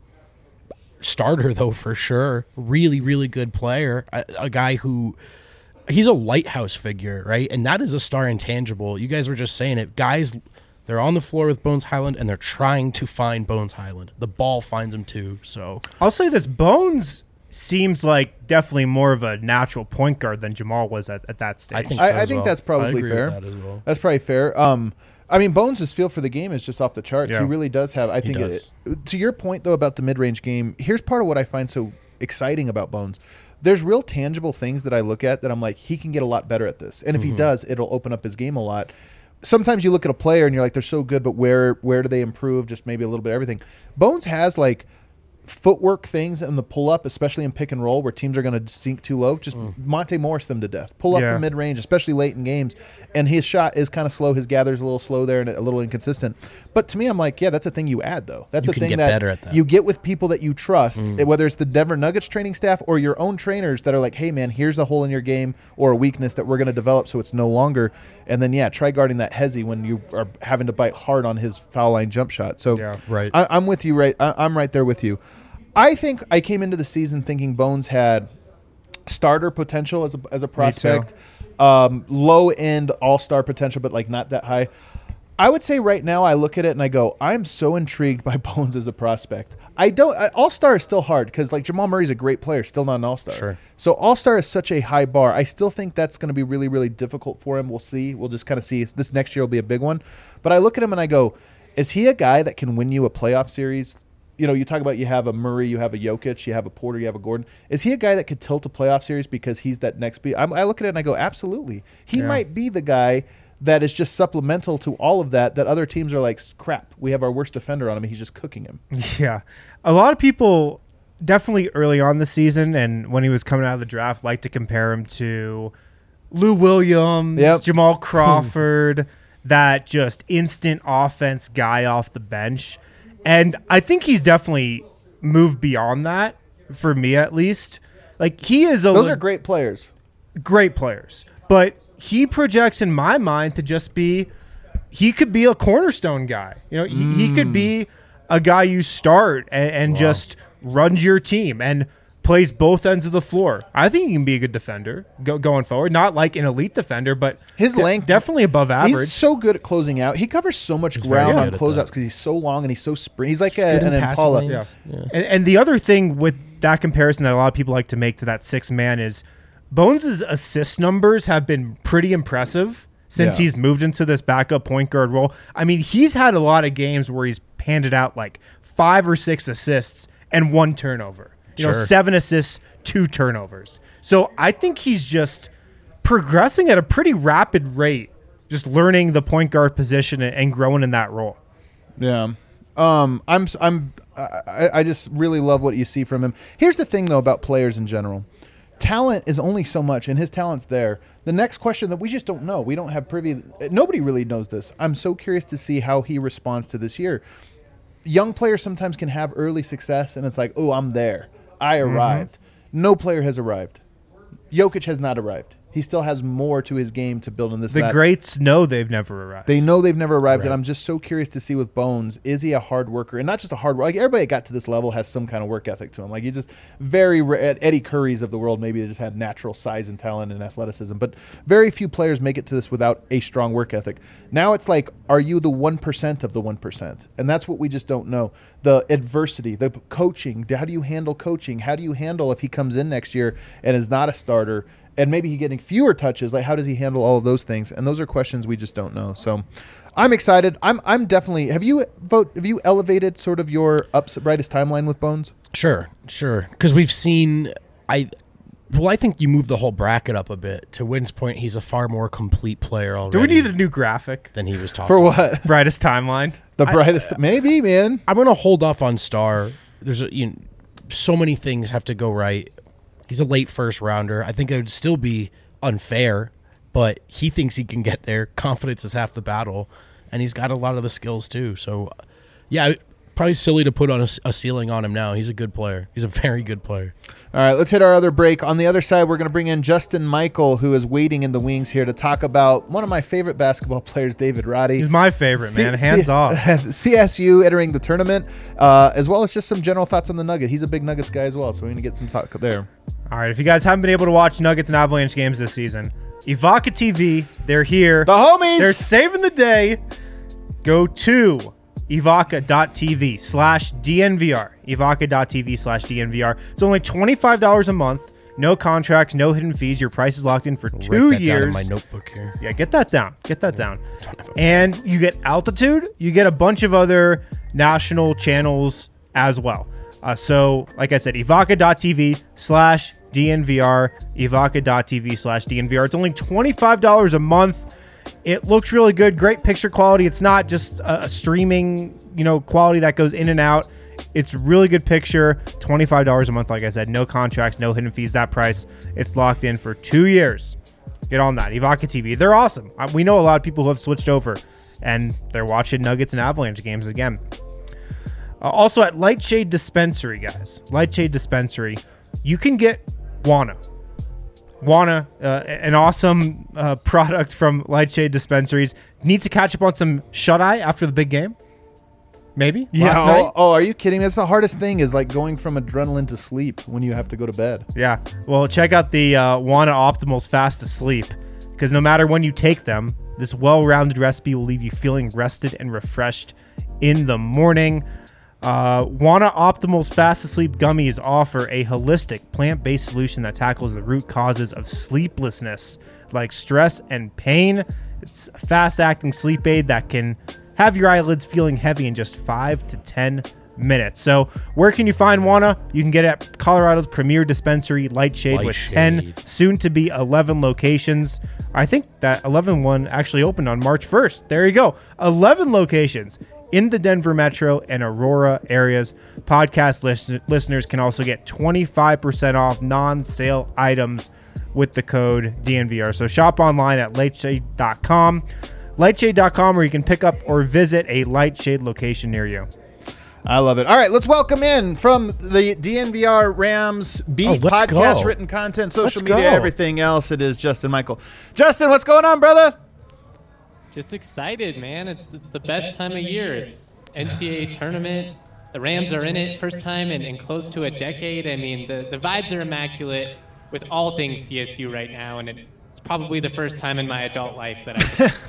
S3: Starter, though, for sure. Really, really good player. A, a guy who – he's a lighthouse figure, right? And that is a star intangible. You guys were just saying it. Guys, they're on the floor with Bones Highland, and they're trying to find Bones Highland. The ball finds him, too. So
S2: I'll say this. Bones seems like definitely more of a natural point guard than Jamal was at, at that stage.
S3: I think so
S1: I, I
S3: as
S1: think
S3: well.
S1: that's
S3: I
S1: probably
S3: agree
S1: fair.
S3: with that as well.
S1: That's probably fair. Um, I mean, Bones' feel for the game is just off the charts.
S2: Yeah.
S1: He really does have. I think.
S3: does.
S1: It, to your point though about the mid-range game, here's part of what I find so exciting about Bones. There's real tangible things that I look at that I'm like, he can get a lot better at this, and if
S3: Mm-hmm.
S1: he does, it'll open up his game a lot. Sometimes you look at a player and you're like, they're so good, but where where do they improve? Just maybe a little bit of everything. Bones has like footwork things in the pull up, especially in pick and roll, where teams are going to sink too low. Just Monte Morris them to death. Pull up
S2: Yeah.
S1: from mid range, especially late in games. And his shot is kind of slow. His gather's a little slow there and a little inconsistent. But to me, I'm like, yeah, that's a thing you add though. That's
S3: You
S1: a
S3: can
S1: thing
S3: get
S1: that,
S3: better at that.
S1: you get with people that you trust, whether it's the Denver Nuggets training staff or your own trainers that are like, hey man, here's a hole in your game or a weakness that we're going to develop so it's no longer. And then yeah, try guarding that Hezzy when you are having to bite hard on his foul line jump shot. So
S2: Yeah.
S3: Right.
S1: I, I'm with you. Right, I, I'm right there with you. I think I came into the season thinking Bones had starter potential as a, as a prospect, um, low end all star potential, but like not that high. I would say right now I look at it and I go, I'm so intrigued by Bones as a prospect. I don't. All star is still hard because like Jamal Murray's a great player, still not an all star.
S3: Sure.
S1: So all star is such a high bar. I still think that's going to be really really difficult for him. We'll see. We'll just kind of see. This next year will be a big one. But I look at him and I go, is he a guy that can win you a playoff series? You know, you talk about you have a Murray, you have a Jokic, you have a Porter, you have a Gordon. Is he a guy that could tilt a playoff series because he's that next beat? I'm, I look at it and I go, absolutely. He
S2: Yeah.
S1: might be the guy that is just supplemental to all of that, that other teams are like, crap, we have our worst defender on him and he's just cooking him.
S2: Yeah. A lot of people definitely early on the season and when he was coming out of the draft like to compare him to Lou Williams,
S1: Yep.
S2: Jamal Crawford, that just instant offense guy off the bench. And I think he's definitely moved beyond that, for me at least. Like, he is a
S1: Those
S2: le-
S1: are great players.
S2: great players. But he projects in my mind to just be he could be a cornerstone guy. You know, he, he could be a guy you start and, and just runs your team and plays both ends of the floor. I think he can be a good defender go, going forward. Not like an elite defender, but
S1: His
S2: de-
S1: length
S2: definitely above average.
S1: He's so good at closing out. He covers so much
S3: very
S1: ground on
S3: good at
S1: closeouts
S3: that.
S1: because he's so long and he's so sprint. He's like
S3: He's
S1: a,
S3: good
S1: an
S3: in passing
S1: Impala.
S3: lanes. Yeah.
S2: And, and the other thing with that comparison that a lot of people like to make to that six man is Bones' assist numbers have been pretty impressive since
S1: Yeah.
S2: he's moved into this backup point guard role. I mean, he's had a lot of games where he's handed out like five or six assists and one turnover. You know,
S3: Sure.
S2: seven assists, two turnovers. So I think he's just progressing at a pretty rapid rate, just learning the point guard position and growing in that role.
S1: Yeah. Um, I'm s- I'm I, I just really love what you see from him. Here's the thing though about players in general. Talent is only so much, and his talent's there. The next question that we just don't know, we don't have privy. Nobody really knows this. I'm so curious to see how he responds to this year. young players sometimes can have early success, and it's like, oh, I'm there. I arrived. Mm-hmm. No player has arrived. Jokic has not arrived. He still has more to his game to build on this.
S2: The
S1: that.
S2: greats know they've never arrived.
S1: They know they've never arrived,
S3: Right.
S1: and I'm just so curious to see with Bones, is he a hard worker? And not just a hard worker. Like, everybody that got to this level has some kind of work ethic to him. Like, you just very rare, Eddie Curry's of the world, maybe they just had natural size and talent and athleticism. But very few players make it to this without a strong work ethic. Now it's like, are you the one percent of the one percent? And that's what we just don't know. The adversity, the coaching, how do you handle coaching? How do you handle if he comes in next year and is not a starter? And maybe he getting fewer touches. Like, how does he handle all of those things? And those are questions we just don't know. So, I'm excited. I'm I'm definitely. Have you vote? Have you elevated sort of your ups brightest timeline with Bones?
S3: Sure, sure. Because we've seen, I, well, I think you move the whole bracket up a bit. To Wynn's point, he's a far more complete player already.
S2: Do we need a new graphic?
S3: than he was talking
S1: For
S3: about.
S1: what?
S2: Brightest timeline.
S1: The brightest? maybe, man.
S3: I'm gonna hold off on Star. There's a, you know, so many things have to go right. He's a late first rounder. I think it would still be unfair, but he thinks he can get there. Confidence is half the battle, and he's got a lot of the skills too. So, yeah, probably silly to put on a, a ceiling on him now. He's a good player. He's a very good player.
S1: All right, let's hit our other break. On the other side, we're going to bring in Justin Michael, who is waiting in the wings here to talk about one of my favorite basketball players, David Roddy.
S2: He's my favorite, man.
S1: C-
S2: Hands
S1: C-
S2: off.
S1: C S U entering the tournament, uh, as well as just some general thoughts on the Nugget. He's a big Nuggets guy as well, so we're going to get some talk there.
S2: All right, if you guys haven't been able to watch Nuggets and Avalanche games this season, Evoca T V, they're here.
S1: The homies!
S2: They're saving the day. Go to evoca.tv slash DNVR. evoca.tv slash DNVR. It's only twenty-five dollars a month. No contracts, no hidden fees. Your price is locked in for two
S3: Write that
S2: years.
S3: down in my notebook here.
S2: Yeah, get that down. Get that down. And you get altitude. You get a bunch of other national channels as well. Uh, so, like I said, evoca.tv slash DNVR. evoca.tv slash DNVR. It's only twenty-five dollars a month. It looks really good. Great picture quality. It's not just a, a streaming, you know, quality that goes in and out. It's really good picture. twenty-five dollars a month, like I said. No contracts, no hidden fees. That price, it's locked in for two years. Get on that. Evoca T V. They're awesome. Uh, we know a lot of people who have switched over, and they're watching Nuggets and Avalanche games again. Uh, also at Lightshade Dispensary, guys. Lightshade Dispensary. You can get Wana. Wana, uh, an awesome uh, product from Lightshade Dispensaries. Need to catch up on some shut-eye after the big game? Maybe?
S1: Yeah.
S2: Last
S1: Oh,
S2: night?
S1: oh, are you kidding me? That's the hardest thing is like going from adrenaline to sleep when you have to go to bed.
S2: Yeah. Well, check out the uh, Wana Optimals Fast Asleep, because no matter when you take them, this well-rounded recipe will leave you feeling rested and refreshed in the morning. Uh, Wana Optimals Fast Asleep Gummies offer a holistic plant-based solution that tackles the root causes of sleeplessness, like stress and pain. It's a fast-acting sleep aid that can have your eyelids feeling heavy in just five to ten minutes. So where can you find Wana? You can get it at Colorado's premier dispensary, Lightshade, with
S3: Lightshade.
S2: ten, soon to be eleven locations. I think that eleven one actually opened on March first. There you go. eleven locations in the Denver metro and Aurora areas. Podcast listen- listeners can also get twenty-five percent off non-sale items with the code D N V R. So shop online at lightshade dot com. lightshade dot com, where you can pick up or visit a Lightshade location near you.
S1: I love it. All right, let's welcome in from the D N V R Rams beat,
S3: Oh, let's
S1: podcast,
S3: go.
S1: written content, social
S2: Let's
S1: media,
S2: go.
S1: everything else. It is Justin Michael. Justin, what's going on, brother?
S5: Just excited, man. It's it's the best time of year. It's N C double A tournament. The Rams are in it first time in, in close to a decade. I mean, the, the vibes are immaculate with all things C S U right now, and it, it's probably the first time in my adult life that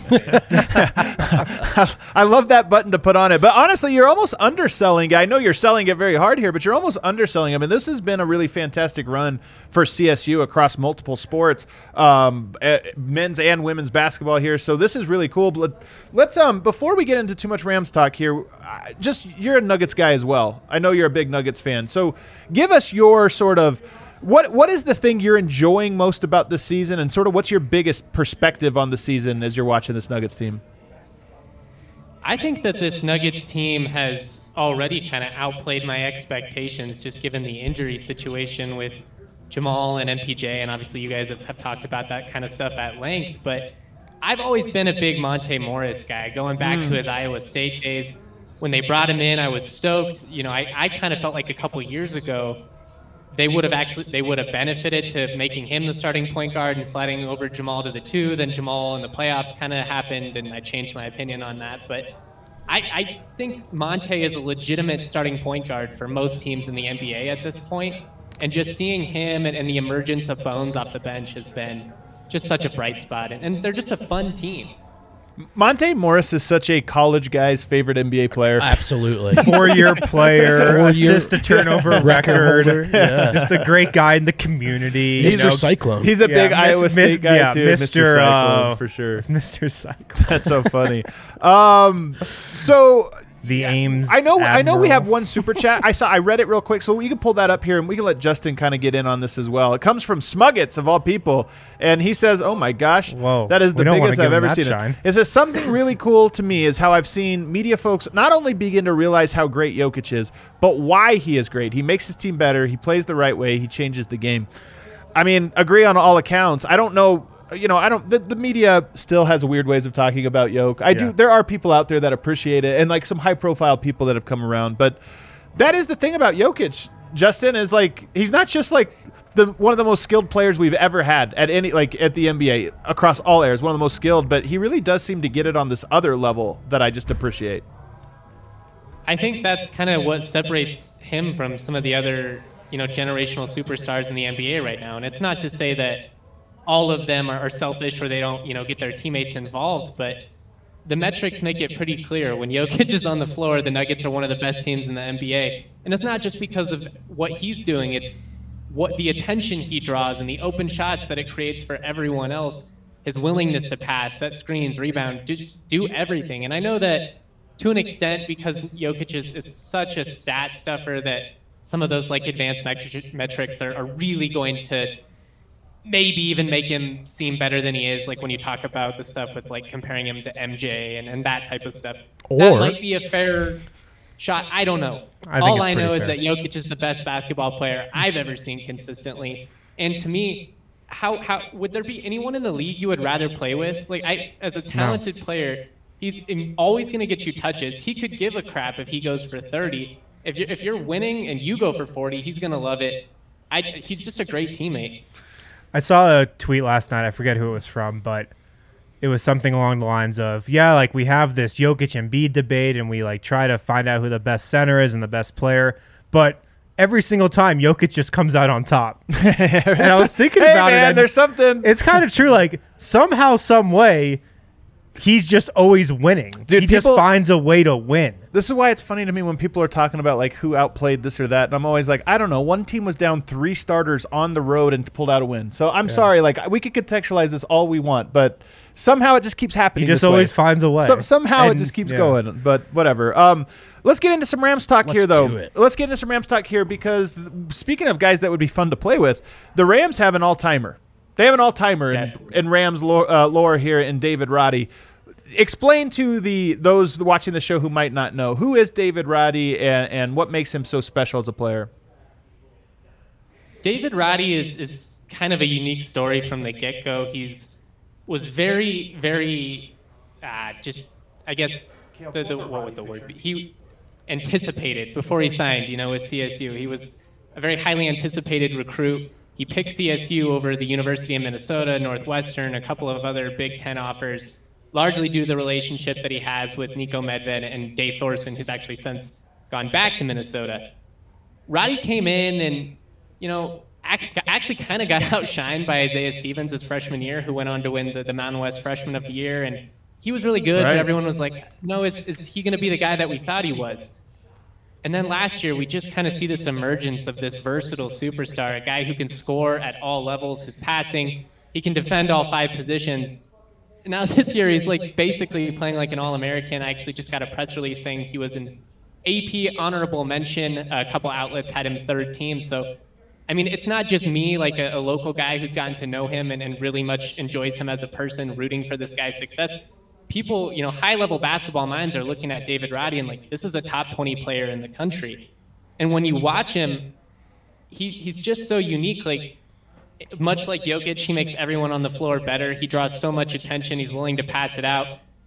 S5: I
S1: I love that button to put on it. But honestly, you're almost underselling it. I know you're selling it very hard here, but you're almost underselling it. I mean, this has been a really fantastic run for C S U across multiple sports, um, uh, men's and women's basketball here. So this is really cool. But let's, um, before we get into too much Rams talk here, uh, just you're a Nuggets guy as well. I know you're a big Nuggets fan. So give us your sort of, What what is the thing you're enjoying most about this season, and sort of what's your biggest perspective on the season as you're watching this Nuggets team?
S5: I think that this Nuggets team has already kind of outplayed my expectations, just given the injury situation with Jamal and M P J, and obviously you guys have, have talked about that kind of stuff at length. But I've always been a big Monte Morris guy, going back
S1: Mm.
S5: to his Iowa State days. when they brought him in, I was stoked. You know, I, I kind of felt like a couple years ago, they would have actually they would have benefited to making him the starting point guard and sliding over Jamal to the two. Then Jamal in the playoffs kind of happened, and I changed my opinion on that. But I, I think Monte is a legitimate starting point guard for most teams in the N B A at this point. And just seeing him and, and the emergence of Bones off the bench has been just such a bright spot. And, and they're just a fun team.
S1: Monte Morris is such a college guy's favorite N B A player.
S3: Absolutely.
S2: Four-year player,
S3: Four-year
S2: assist to turnover record.
S3: holder, yeah.
S2: Just a great guy in the community.
S3: Mister
S2: You know,
S3: Cyclone.
S1: He's a
S2: Yeah,
S1: big
S2: Miss-
S1: Iowa
S2: Miss-
S1: State guy
S2: yeah,
S1: too,
S2: Mister
S1: Cyclone,
S2: uh,
S1: for sure.
S2: Mister Cyclone.
S1: That's so funny. Um, so
S2: The Ames.
S1: I know, I know, we
S2: Admiral.
S1: have one super chat. I saw, I read it real quick, so you can pull that up here, and we can let Justin kind of get in on this as well. It comes from Smuggets of all people, and he says, "Oh my gosh,
S2: Whoa,
S1: that is
S2: we
S1: the
S2: don't wanna
S1: biggest
S2: give
S1: I've
S2: him
S1: ever
S2: that
S1: seen."
S2: shine.
S1: It. It says something really cool to me is how I've seen media folks not only begin to realize how great Jokic is, but why he is great. He makes his team better. He plays the right way. He changes the game. I mean, agree on all accounts. I don't know. You know, I don't. The, the media still has weird ways of talking about Yoke. I
S2: Yeah.
S1: do. There are people out there that appreciate it, and like some high-profile people that have come around. But that is the thing about Jokic, Justin, is like he's not just like the one of the most skilled players we've ever had at any like at the N B A across all areas. One of the most skilled, but he really does seem to get it on this other level that I just appreciate.
S5: I think that's kind of what separates him from some of the other, you know, generational superstars in the N B A right now. And it's not to say that all of them are, are selfish or they don't, you know, get their teammates involved, but the metrics make it pretty clear. When Jokic is on the floor, the Nuggets are one of the best teams in the N B A. And it's not just because of what he's doing, it's what the attention he draws and the open shots that it creates for everyone else, his willingness to pass, set screens, rebound, just do everything. And I know that to an extent, because Jokic is, is such a stat stuffer, that some of those like advanced metri- metrics are, are really going to maybe even make him seem better than he is, like when you talk about the stuff with like comparing him to M J and, and that type of stuff.
S3: Or-
S5: that might be a fair shot. I don't know.
S2: I think
S5: All
S2: it's
S5: I know
S2: pretty
S5: is
S2: fair.
S5: that Jokic is the best basketball player I've ever seen consistently. And to me, how how would there be anyone in the league you would rather play with? Like I, as a talented player, he's in- always going to get you touches. He could give a crap if he goes for thirty. If you're if you're winning and you go for forty, he's going to love it. I, he's just a great teammate.
S2: I saw a tweet last night. I forget who it was from, but it was something along the lines of, yeah, like we have this Jokic and Embiid debate and we like try to find out who the best center is and the best player, but every single time Jokic just comes out on top. And I was thinking
S1: Hey,
S2: about
S1: man,
S2: it. and
S1: there's something.
S2: It's kind of true. Like somehow, some way, he's just always winning.
S1: Dude,
S2: he just
S1: people-
S2: finds a way to win.
S1: This is why it's funny to me when people are talking about like who outplayed this or that, and I'm always like, I don't know. One team was down three starters on the road and pulled out a win. So I'm sorry, like we could contextualize this all we want, but somehow it just keeps happening.
S2: He just
S1: this way.
S2: always finds a way.
S1: Some, somehow it
S2: And-
S1: just keeps
S2: yeah.
S1: going, but whatever. Um, let's get into some Rams talk
S3: Let's
S1: here, though.
S3: do it.
S1: Let's get into some Rams talk here because speaking of guys that would be fun to play with, the Rams have an all-timer. They have an all-timer in,
S5: Definitely.
S1: in Rams lore, uh, lore here in David Roddy. Explain to the those watching the show who might not know, who is David Roddy and, and what makes him so special as a player?
S5: David Roddy is, is kind of a unique story from the get-go. He's was very, very, uh, just, I guess, the, the, what would the word be? He anticipated before he signed, you know, with C S U. He was a very highly anticipated recruit. He picked C S U over the University of Minnesota, Northwestern, a couple of other Big Ten offers, largely due to the relationship that he has with Nico Medved and Dave Thorson, who's actually since gone back to Minnesota. Roddy came in and, you know, ac- actually kind of got outshined by Isaiah Stevens his freshman year, who went on to win the, the Mountain West Freshman of the Year. And he was really good,
S1: Right.
S5: but everyone was like, no, is, is he going to be the guy that we thought he was? And then last year, we just kind of see this emergence of this versatile superstar, a guy who can score at all levels, who's passing, he can defend all five positions. Now this year, he's like basically playing like an All-American. I actually just got a press release saying he was an A P honorable mention. A couple outlets had him third team. So, I mean, it's not just me, like a, a local guy who's gotten to know him and, and really much enjoys him as a person, rooting for this guy's success. People, you know, high-level basketball minds are looking at David Roddy and like, this is a top twenty player in the country. And when you watch him, he he's just so unique. Like, much like Jokic, he makes everyone on the floor better. He draws so much attention. He's willing to pass it out.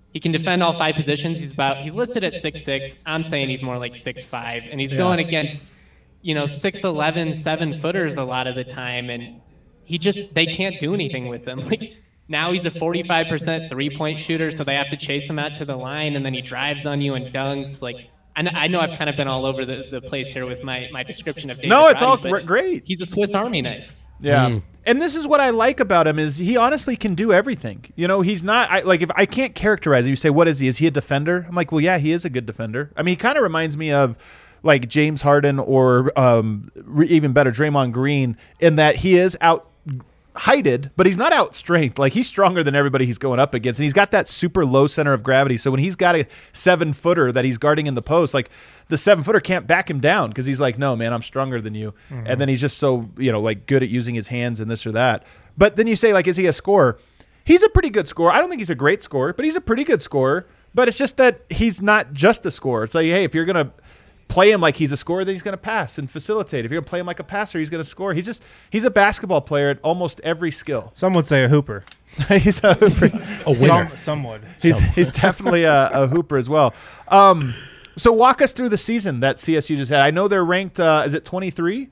S5: He can defend all five positions. He's about he's listed at six six. I'm saying he's more like six five, and he's yeah. going against, you know, six eleven, seven footers a lot of the time, and he just they can't do anything with him. Like now he's a forty-five percent three-point shooter, so they have to chase him out to the line, and then he drives on you and dunks. Like I, I know I've kind of been all over the, the place here with my, my description of David
S1: No, it's
S5: Roddy,
S1: all great.
S5: He's a Swiss Army knife.
S1: Yeah.
S3: Mm.
S1: And this is what I like about him is he honestly can do everything. You know, he's not I, like if I can't characterize him, you say, what is he? Is he a defender? I'm like, well, yeah, he is a good defender. I mean, he kind of reminds me of like James Harden or um, re- even better, Draymond Green, in that he is out heighted, but he's not out strength. Like he's stronger than everybody he's going up against. And he's got that super low center of gravity. So when he's got a seven footer that he's guarding in the post, like the seven footer can't back him down because he's like, no, man, I'm stronger than you. Mm-hmm. And then he's just so, you know, like good at using his hands and this or that. But then you say, like, is he a scorer? He's a pretty good scorer. I don't think he's a great scorer, but he's a pretty good scorer. But it's just that he's not just a scorer. It's like, hey, if you're going to play him like he's a scorer, then he's going to pass and facilitate. If you're going to play him like a passer, he's going to score. He's just he's a basketball player at almost every skill.
S2: Some would say a hooper.
S1: He's a hooper.
S3: A winner.
S2: Some, some would.
S1: He's,
S3: Some.
S1: he's definitely a, a hooper as well. Um, so walk us through the season that C S U just had. I know they're ranked, uh, is it twenty-three?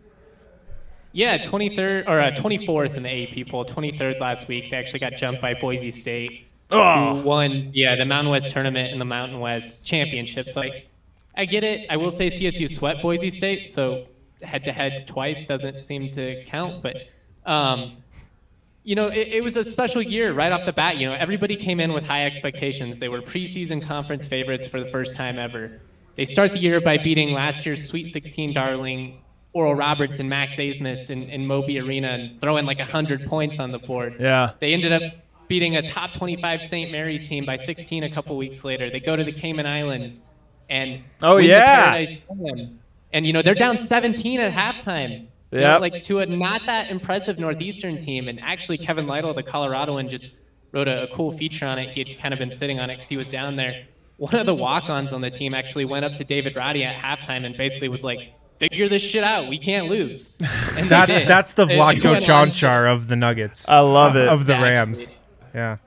S5: Yeah, twenty-third or uh, twenty-fourth in the A P poll, twenty-third last week. They actually got jumped by Boise State,
S1: oh.
S5: who won yeah, the Mountain West tournament and the Mountain West championships. Like, I get it. I will say C S U swept Boise State, so head-to-head twice doesn't seem to count. But, um, you know, it, it was a special year right off the bat. You know, everybody came in with high expectations. They were preseason conference favorites for the first time ever. They start the year by beating last year's Sweet sixteen darling Oral Roberts and Max Abmas in, in Moby Arena and throwing like one hundred points on the board.
S1: Yeah.
S5: They ended up beating a top twenty-five Saint Mary's team by sixteen a couple weeks later. They go to the Cayman Islands and
S1: oh
S5: win
S1: yeah,
S5: the Paradise Slam. And you know they're down seventeen at halftime.
S1: Yeah,
S5: you know, like to a not that impressive Northeastern team. And actually, Kevin Lytle, the Coloradoan, just wrote a, a cool feature on it. He had kind of been sitting on it because he was down there. One of the walk-ons on the team actually went up to David Roddy at halftime and basically was like, "Figure this shit out. We can't lose." And
S2: that's
S5: did.
S2: that's the
S5: They-
S2: Vlatko
S5: they went on-
S2: Chanchar of the Nuggets.
S1: I love it.
S2: Of the
S5: Exactly.
S2: Rams. Yeah.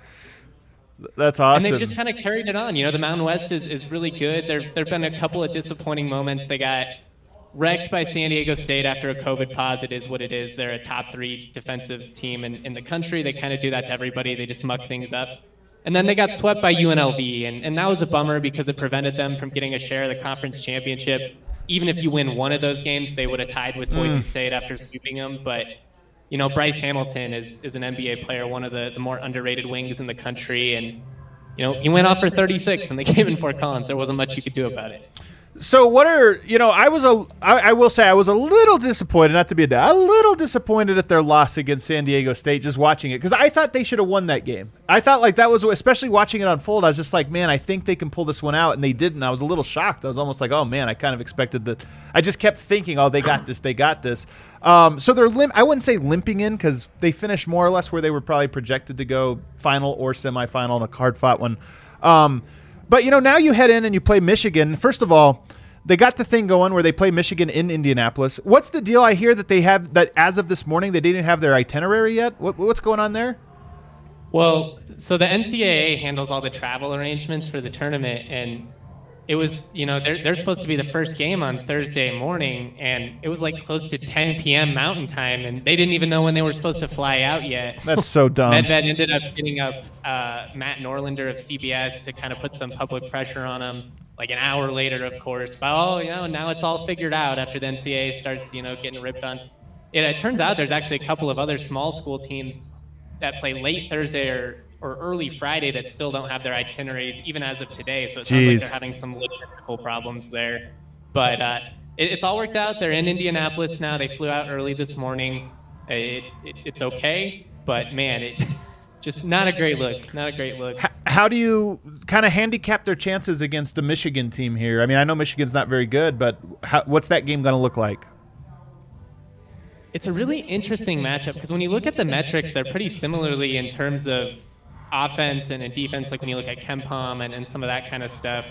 S1: That's awesome.
S5: And they've just kind of carried it on. You know, the Mountain West is, is really good. There there have been a couple of disappointing moments. They got wrecked by San Diego State after a COVID pause. It is what it is. They're a top three defensive team in, in the country. They kind of do that to everybody. They just muck things up. And then they got swept by U N L V, and, and that was a bummer because it prevented them from getting a share of the conference championship. Even if you win one of those games, they would have tied with Boise State after sweeping them. But, you know, Bryce Hamilton is, is an N B A player, one of the, the more underrated wings in the country. And, you know, he went off for thirty-six, and they came in Fort Collins. There wasn't much you could do about it.
S1: So what are you know? I was a. I, I will say I was a little disappointed, not to be a dad, a little disappointed at their loss against San Diego State. Just watching it because I thought they should have won that game. I thought like that was especially watching it unfold. I was just like, man, I think they can pull this one out, and they didn't. I was a little shocked. I was almost like, oh man, I kind of expected that. I just kept thinking, oh, they got this, they got this. Um, so they're limp. I wouldn't say limping in because they finished more or less where they were probably projected to go, final or semifinal in a hard-fought one. Um, But, you know, now you head in and you play Michigan. First of all, they got the thing going where they play Michigan in Indianapolis. What's the deal? I hear that they have that as of this morning, they didn't have their itinerary yet. What, what's going on there?
S5: Well, so the N C double A handles all the travel arrangements for the tournament, and it was, you know, they're, they're supposed to be the first game on Thursday morning, and it was like close to ten p.m. Mountain Time, and they didn't even know when they were supposed to fly out yet.
S1: That's so dumb.
S5: Medved ended up getting up uh, Matt Norlander of C B S to kind of put some public pressure on him. Like an hour later, of course, but oh, you know, now it's all figured out after the N C double A starts, you know, getting ripped on. It, it turns out there's actually a couple of other small school teams that play late Thursday or, or early Friday that still don't have their itineraries, even as of today. So it sounds
S1: Jeez.
S5: like they're having some logistical problems there. But uh, it, it's all worked out. They're in Indianapolis now. They flew out early this morning. It, it, it's okay, but man, it just not a great look. Not a great look.
S1: H- how do you kind of handicap their chances against the Michigan team here? I mean, I know Michigan's not very good, but how, what's that game going to look like?
S5: It's a really interesting matchup because when you look at the metrics, they're pretty similarly in terms of offense and defense, like when you look at KenPom and, and some of that kind of stuff.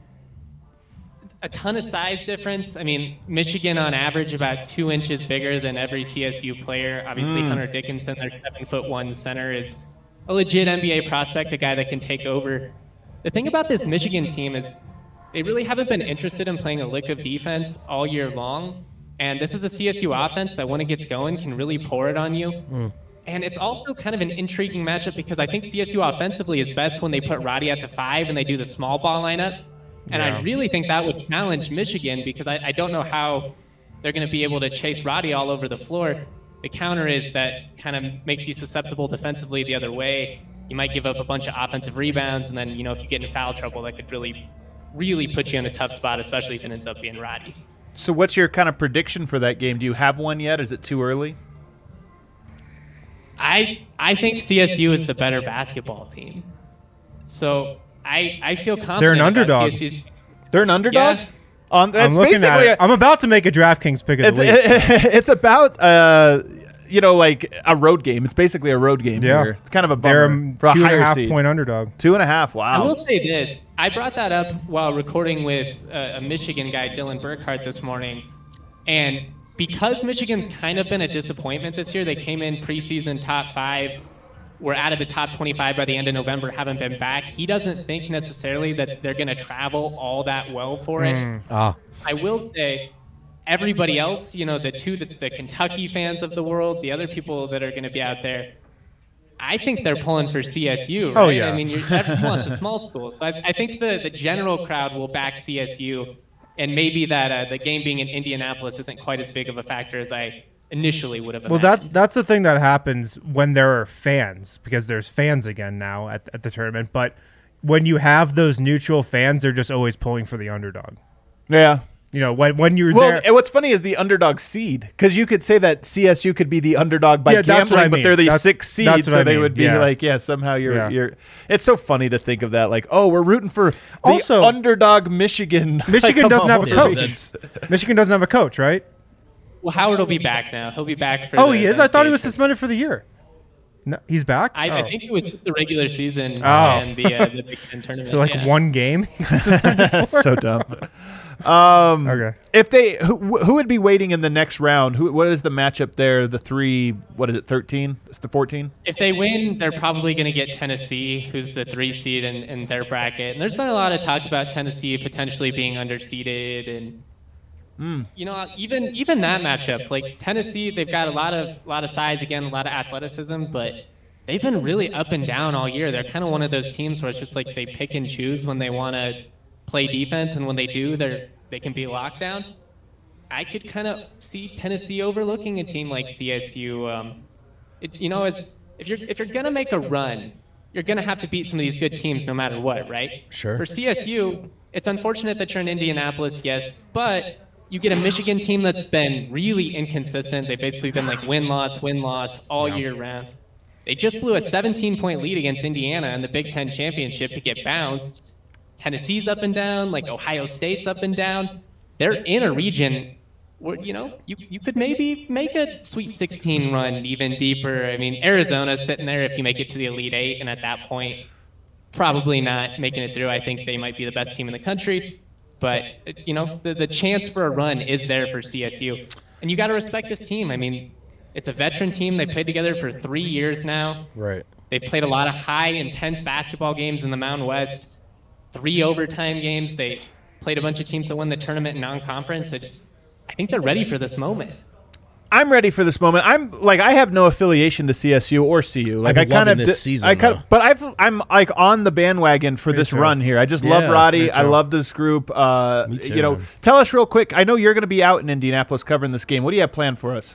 S5: A ton of size difference. I mean, Michigan on average about two inches bigger than every C S U player. Obviously,
S1: Mm.
S5: Hunter Dickinson, their seven foot one center, is a legit N B A prospect, a guy that can take over. the thing about this Michigan team is they really haven't been interested in playing a lick of defense all year long. And this is a C S U offense that when it gets going can really pour it on you. Mm. And it's also kind of an intriguing matchup because I think C S U offensively is best when they put Roddy at the five and they do the small ball lineup. And yeah. I really think that would challenge Michigan because I, I don't know how they're going to be able to chase Roddy all over the floor. The counter is that kind of makes you susceptible defensively the other way. You might give up a bunch of offensive rebounds, and then, you know, if you get in foul trouble, that could really, really put you in a tough spot, especially if it ends up being Roddy.
S6: So what's your kind of prediction for that game? Do you have one yet? Is it too early?
S5: I I think C S U is the better basketball team. So I I feel confident.
S2: They're an underdog.
S5: C S U's.
S6: They're an underdog?
S5: Yeah.
S6: On,
S2: I'm looking at it. I'm about to make a DraftKings pick of the week.
S6: It, it's about, uh, you know, like a road game. It's basically a road game
S2: yeah.
S6: here. It's kind of a
S2: bummer.
S6: They're
S2: for a two
S6: higher
S2: and a half
S6: seed.
S2: point underdog.
S6: Two and a half. Wow.
S5: I will say this. I brought that up while recording with a, a Michigan guy, Dylan Burkhart, this morning. And because Michigan's kind of been a disappointment this year, they came in preseason top five, were out of the top twenty-five by the end of November, haven't been back. He doesn't think necessarily that they're going to travel all that well for it.
S3: Mm. Ah.
S5: I will say everybody else, you know, the two, the, the Kentucky fans of the world, the other people that are going to be out there, I think they're pulling for C S U, right?
S2: Oh, yeah.
S5: I mean, you want the small schools. But I think the, the general crowd will back C S U, and maybe that uh, the game being in Indianapolis isn't quite as big of a factor as I initially would have
S2: well,
S5: imagined.
S2: that that's the thing that happens when there are fans, because there's fans again now at, at the tournament. But when you have those neutral fans, they're just always pulling for the underdog.
S6: Yeah.
S2: You know, when when you're
S6: well,
S2: there.
S6: and what's funny is the underdog seed, because you could say that C S U could be the underdog by
S2: Yeah, that's what
S6: gambling,
S2: I
S6: but
S2: mean.
S6: they're the
S2: That's-
S6: sixth seed,
S2: that's what
S6: so
S2: I
S6: they
S2: mean.
S6: would be
S2: Yeah.
S6: like, yeah, somehow you're
S2: Yeah.
S6: you're. It's so funny to think of that, like, oh, we're rooting for the
S2: Also-
S6: underdog Michigan.
S2: Michigan
S6: Like,
S2: doesn't
S6: come
S2: have a
S6: on.
S2: coach. Michigan doesn't have a coach, right?
S5: Well, Howard will be back now. He'll be back for
S2: Oh,
S5: the
S2: he is? I thought he was
S5: N C A A
S2: suspended for the year. No, he's back?
S5: I,
S2: oh.
S5: I think it was just the regular season
S2: Oh.
S5: and the, uh, the Big Ten tournament.
S2: So, like,
S5: yeah.
S2: one game? he got suspended for?
S6: So dumb. Um,
S2: Okay.
S6: If they, who, who would be waiting in the next round? Who? What is the matchup there? The three, what is it, thirteen? It's the fourteen?
S5: If they win, they're probably going to get Tennessee, who's the three seed in, in their bracket. And there's been a lot of talk about Tennessee potentially being underseeded, and
S6: Mm.
S5: you know, even even that matchup, like Tennessee, they've got a lot of lot of size again, a lot of athleticism, but they've been really up and down all year. They're kind of one of those teams where it's just like they pick and choose when they want to play defense, and when they do, they're they can be locked down. I could kind of see Tennessee overlooking a team like C S U. Um, it, you know, it's if you're if you're gonna make a run, you're gonna have to beat some of these good teams no matter what, right?
S3: Sure.
S5: For C S U, it's unfortunate that you're in Indianapolis, yes, but you get a Michigan team that's been really inconsistent. They've basically been like win-loss, win-loss all
S3: Yeah.
S5: year round. They just blew a seventeen-point lead against Indiana in the Big Ten championship to get bounced. Tennessee's up and down, like Ohio State's up and down. They're in a region where, you know, you, you could maybe make a Sweet sixteen run even deeper. I mean, Arizona's sitting there if you make it to the Elite Eight, and at that point, probably not making it through. I think they might be the best team in the country. But, you know, the, the chance for a run is there for C S U. And you got to respect this team. I mean, it's a veteran team. They played together for three years now.
S3: Right.
S5: They've played a lot of high, intense basketball games in the Mountain West, three overtime games. They played a bunch of teams that won the tournament in non-conference. I just, I think they're ready for this moment.
S6: I'm ready for this moment. I'm like I have no affiliation to C S U or C U. Like
S3: I'm
S6: I kind
S3: loving
S6: of
S3: this season,
S6: I kind
S3: though.
S6: of, but I've I'm like on the bandwagon for
S2: Me
S6: this
S2: too.
S6: run here. I just
S3: Yeah,
S6: love Roddy.
S2: me
S6: I
S2: too.
S6: love this group. Uh,
S3: Me too,
S6: you know,
S3: man.
S6: tell us real quick. I know you're going to be out in Indianapolis covering this game. What do you have planned for us?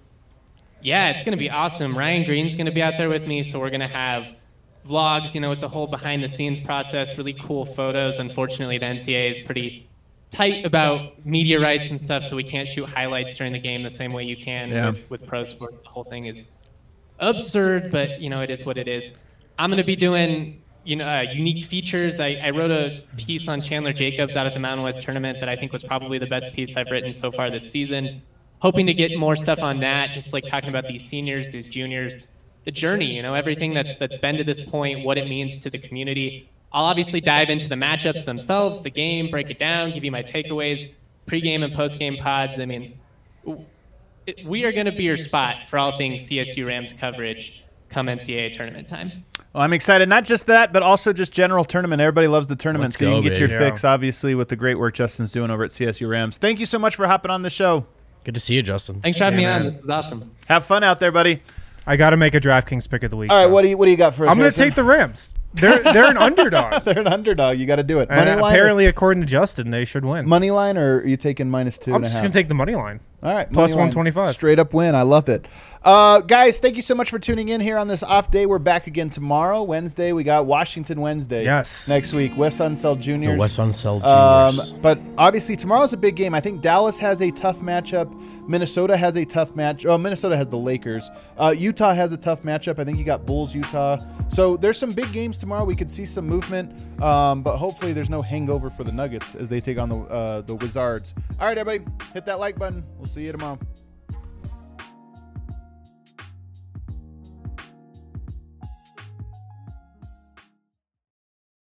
S5: Yeah, it's going to be awesome. Ryan Green's going to be out there with me, so we're going to have vlogs, you know, with the whole behind-the-scenes process, really cool photos. Unfortunately, the N C A A is pretty tight about media rights and stuff, so we can't shoot highlights during the game the same way you can
S6: Yeah.
S5: with, with pro sport. The whole thing is absurd, but, you know, it is what it is. I'm going to be doing, you know, uh, unique features. I, I wrote a piece on Chandler Jacobs out at the Mountain West tournament that I think was probably the best piece I've written so far this season. Hoping to get more stuff on that, just like talking about these seniors, these juniors, the journey, you know, everything that's that's been to this point, what it means to the community. I'll obviously dive into the matchups themselves, the game, break it down, give you my takeaways, pregame and postgame pods. I mean, it, we are going to be your spot for all things C S U Rams coverage. come N C double A tournament time.
S6: Well, I'm excited. Not just that, but also just general tournament. Everybody loves the tournament,
S3: Let's
S6: so you can
S3: go,
S6: get your
S3: baby.
S6: fix, obviously, with the great work Justin's doing over at C S U Rams. Thank you so much for hopping on the show.
S3: Good to see you, Justin.
S5: Thanks for having
S2: Yeah,
S5: me on.
S2: man.
S5: This was awesome.
S6: Have fun out there, buddy.
S2: I got to make a DraftKings pick of the week.
S1: All right,
S2: though.
S1: what do you what do you got for us?
S2: I'm going to
S1: Harrison?
S2: take the Rams. They're they're an underdog.
S1: They're an underdog. You got to do it.
S2: And
S1: Money line.
S2: apparently, according to Justin, they should win.
S1: or, money line, or are you taking minus two
S2: I'm
S1: and a
S2: just
S1: half?
S2: going to take the money line.
S1: All right,
S2: Plus
S1: money line.
S2: one twenty-five.
S1: Straight up win. I love it. Uh, guys, thank you so much for tuning in here on this off day. We're back again tomorrow, Wednesday. We got Washington Wednesday.
S2: Yes.
S1: Next week, West Unseld Juniors.
S3: The West Unseld
S1: Um,
S3: Juniors.
S1: but obviously, tomorrow's a big game. I think Dallas has a tough matchup. Minnesota has a tough match. Oh, Minnesota has the Lakers. Uh, Utah has a tough matchup. I think you got Bulls, Utah. So there's some big games tomorrow. We could see some movement, um, but hopefully there's no hangover for the Nuggets as they take on the uh, the Wizards. All right, everybody, hit that like button. We'll see you tomorrow.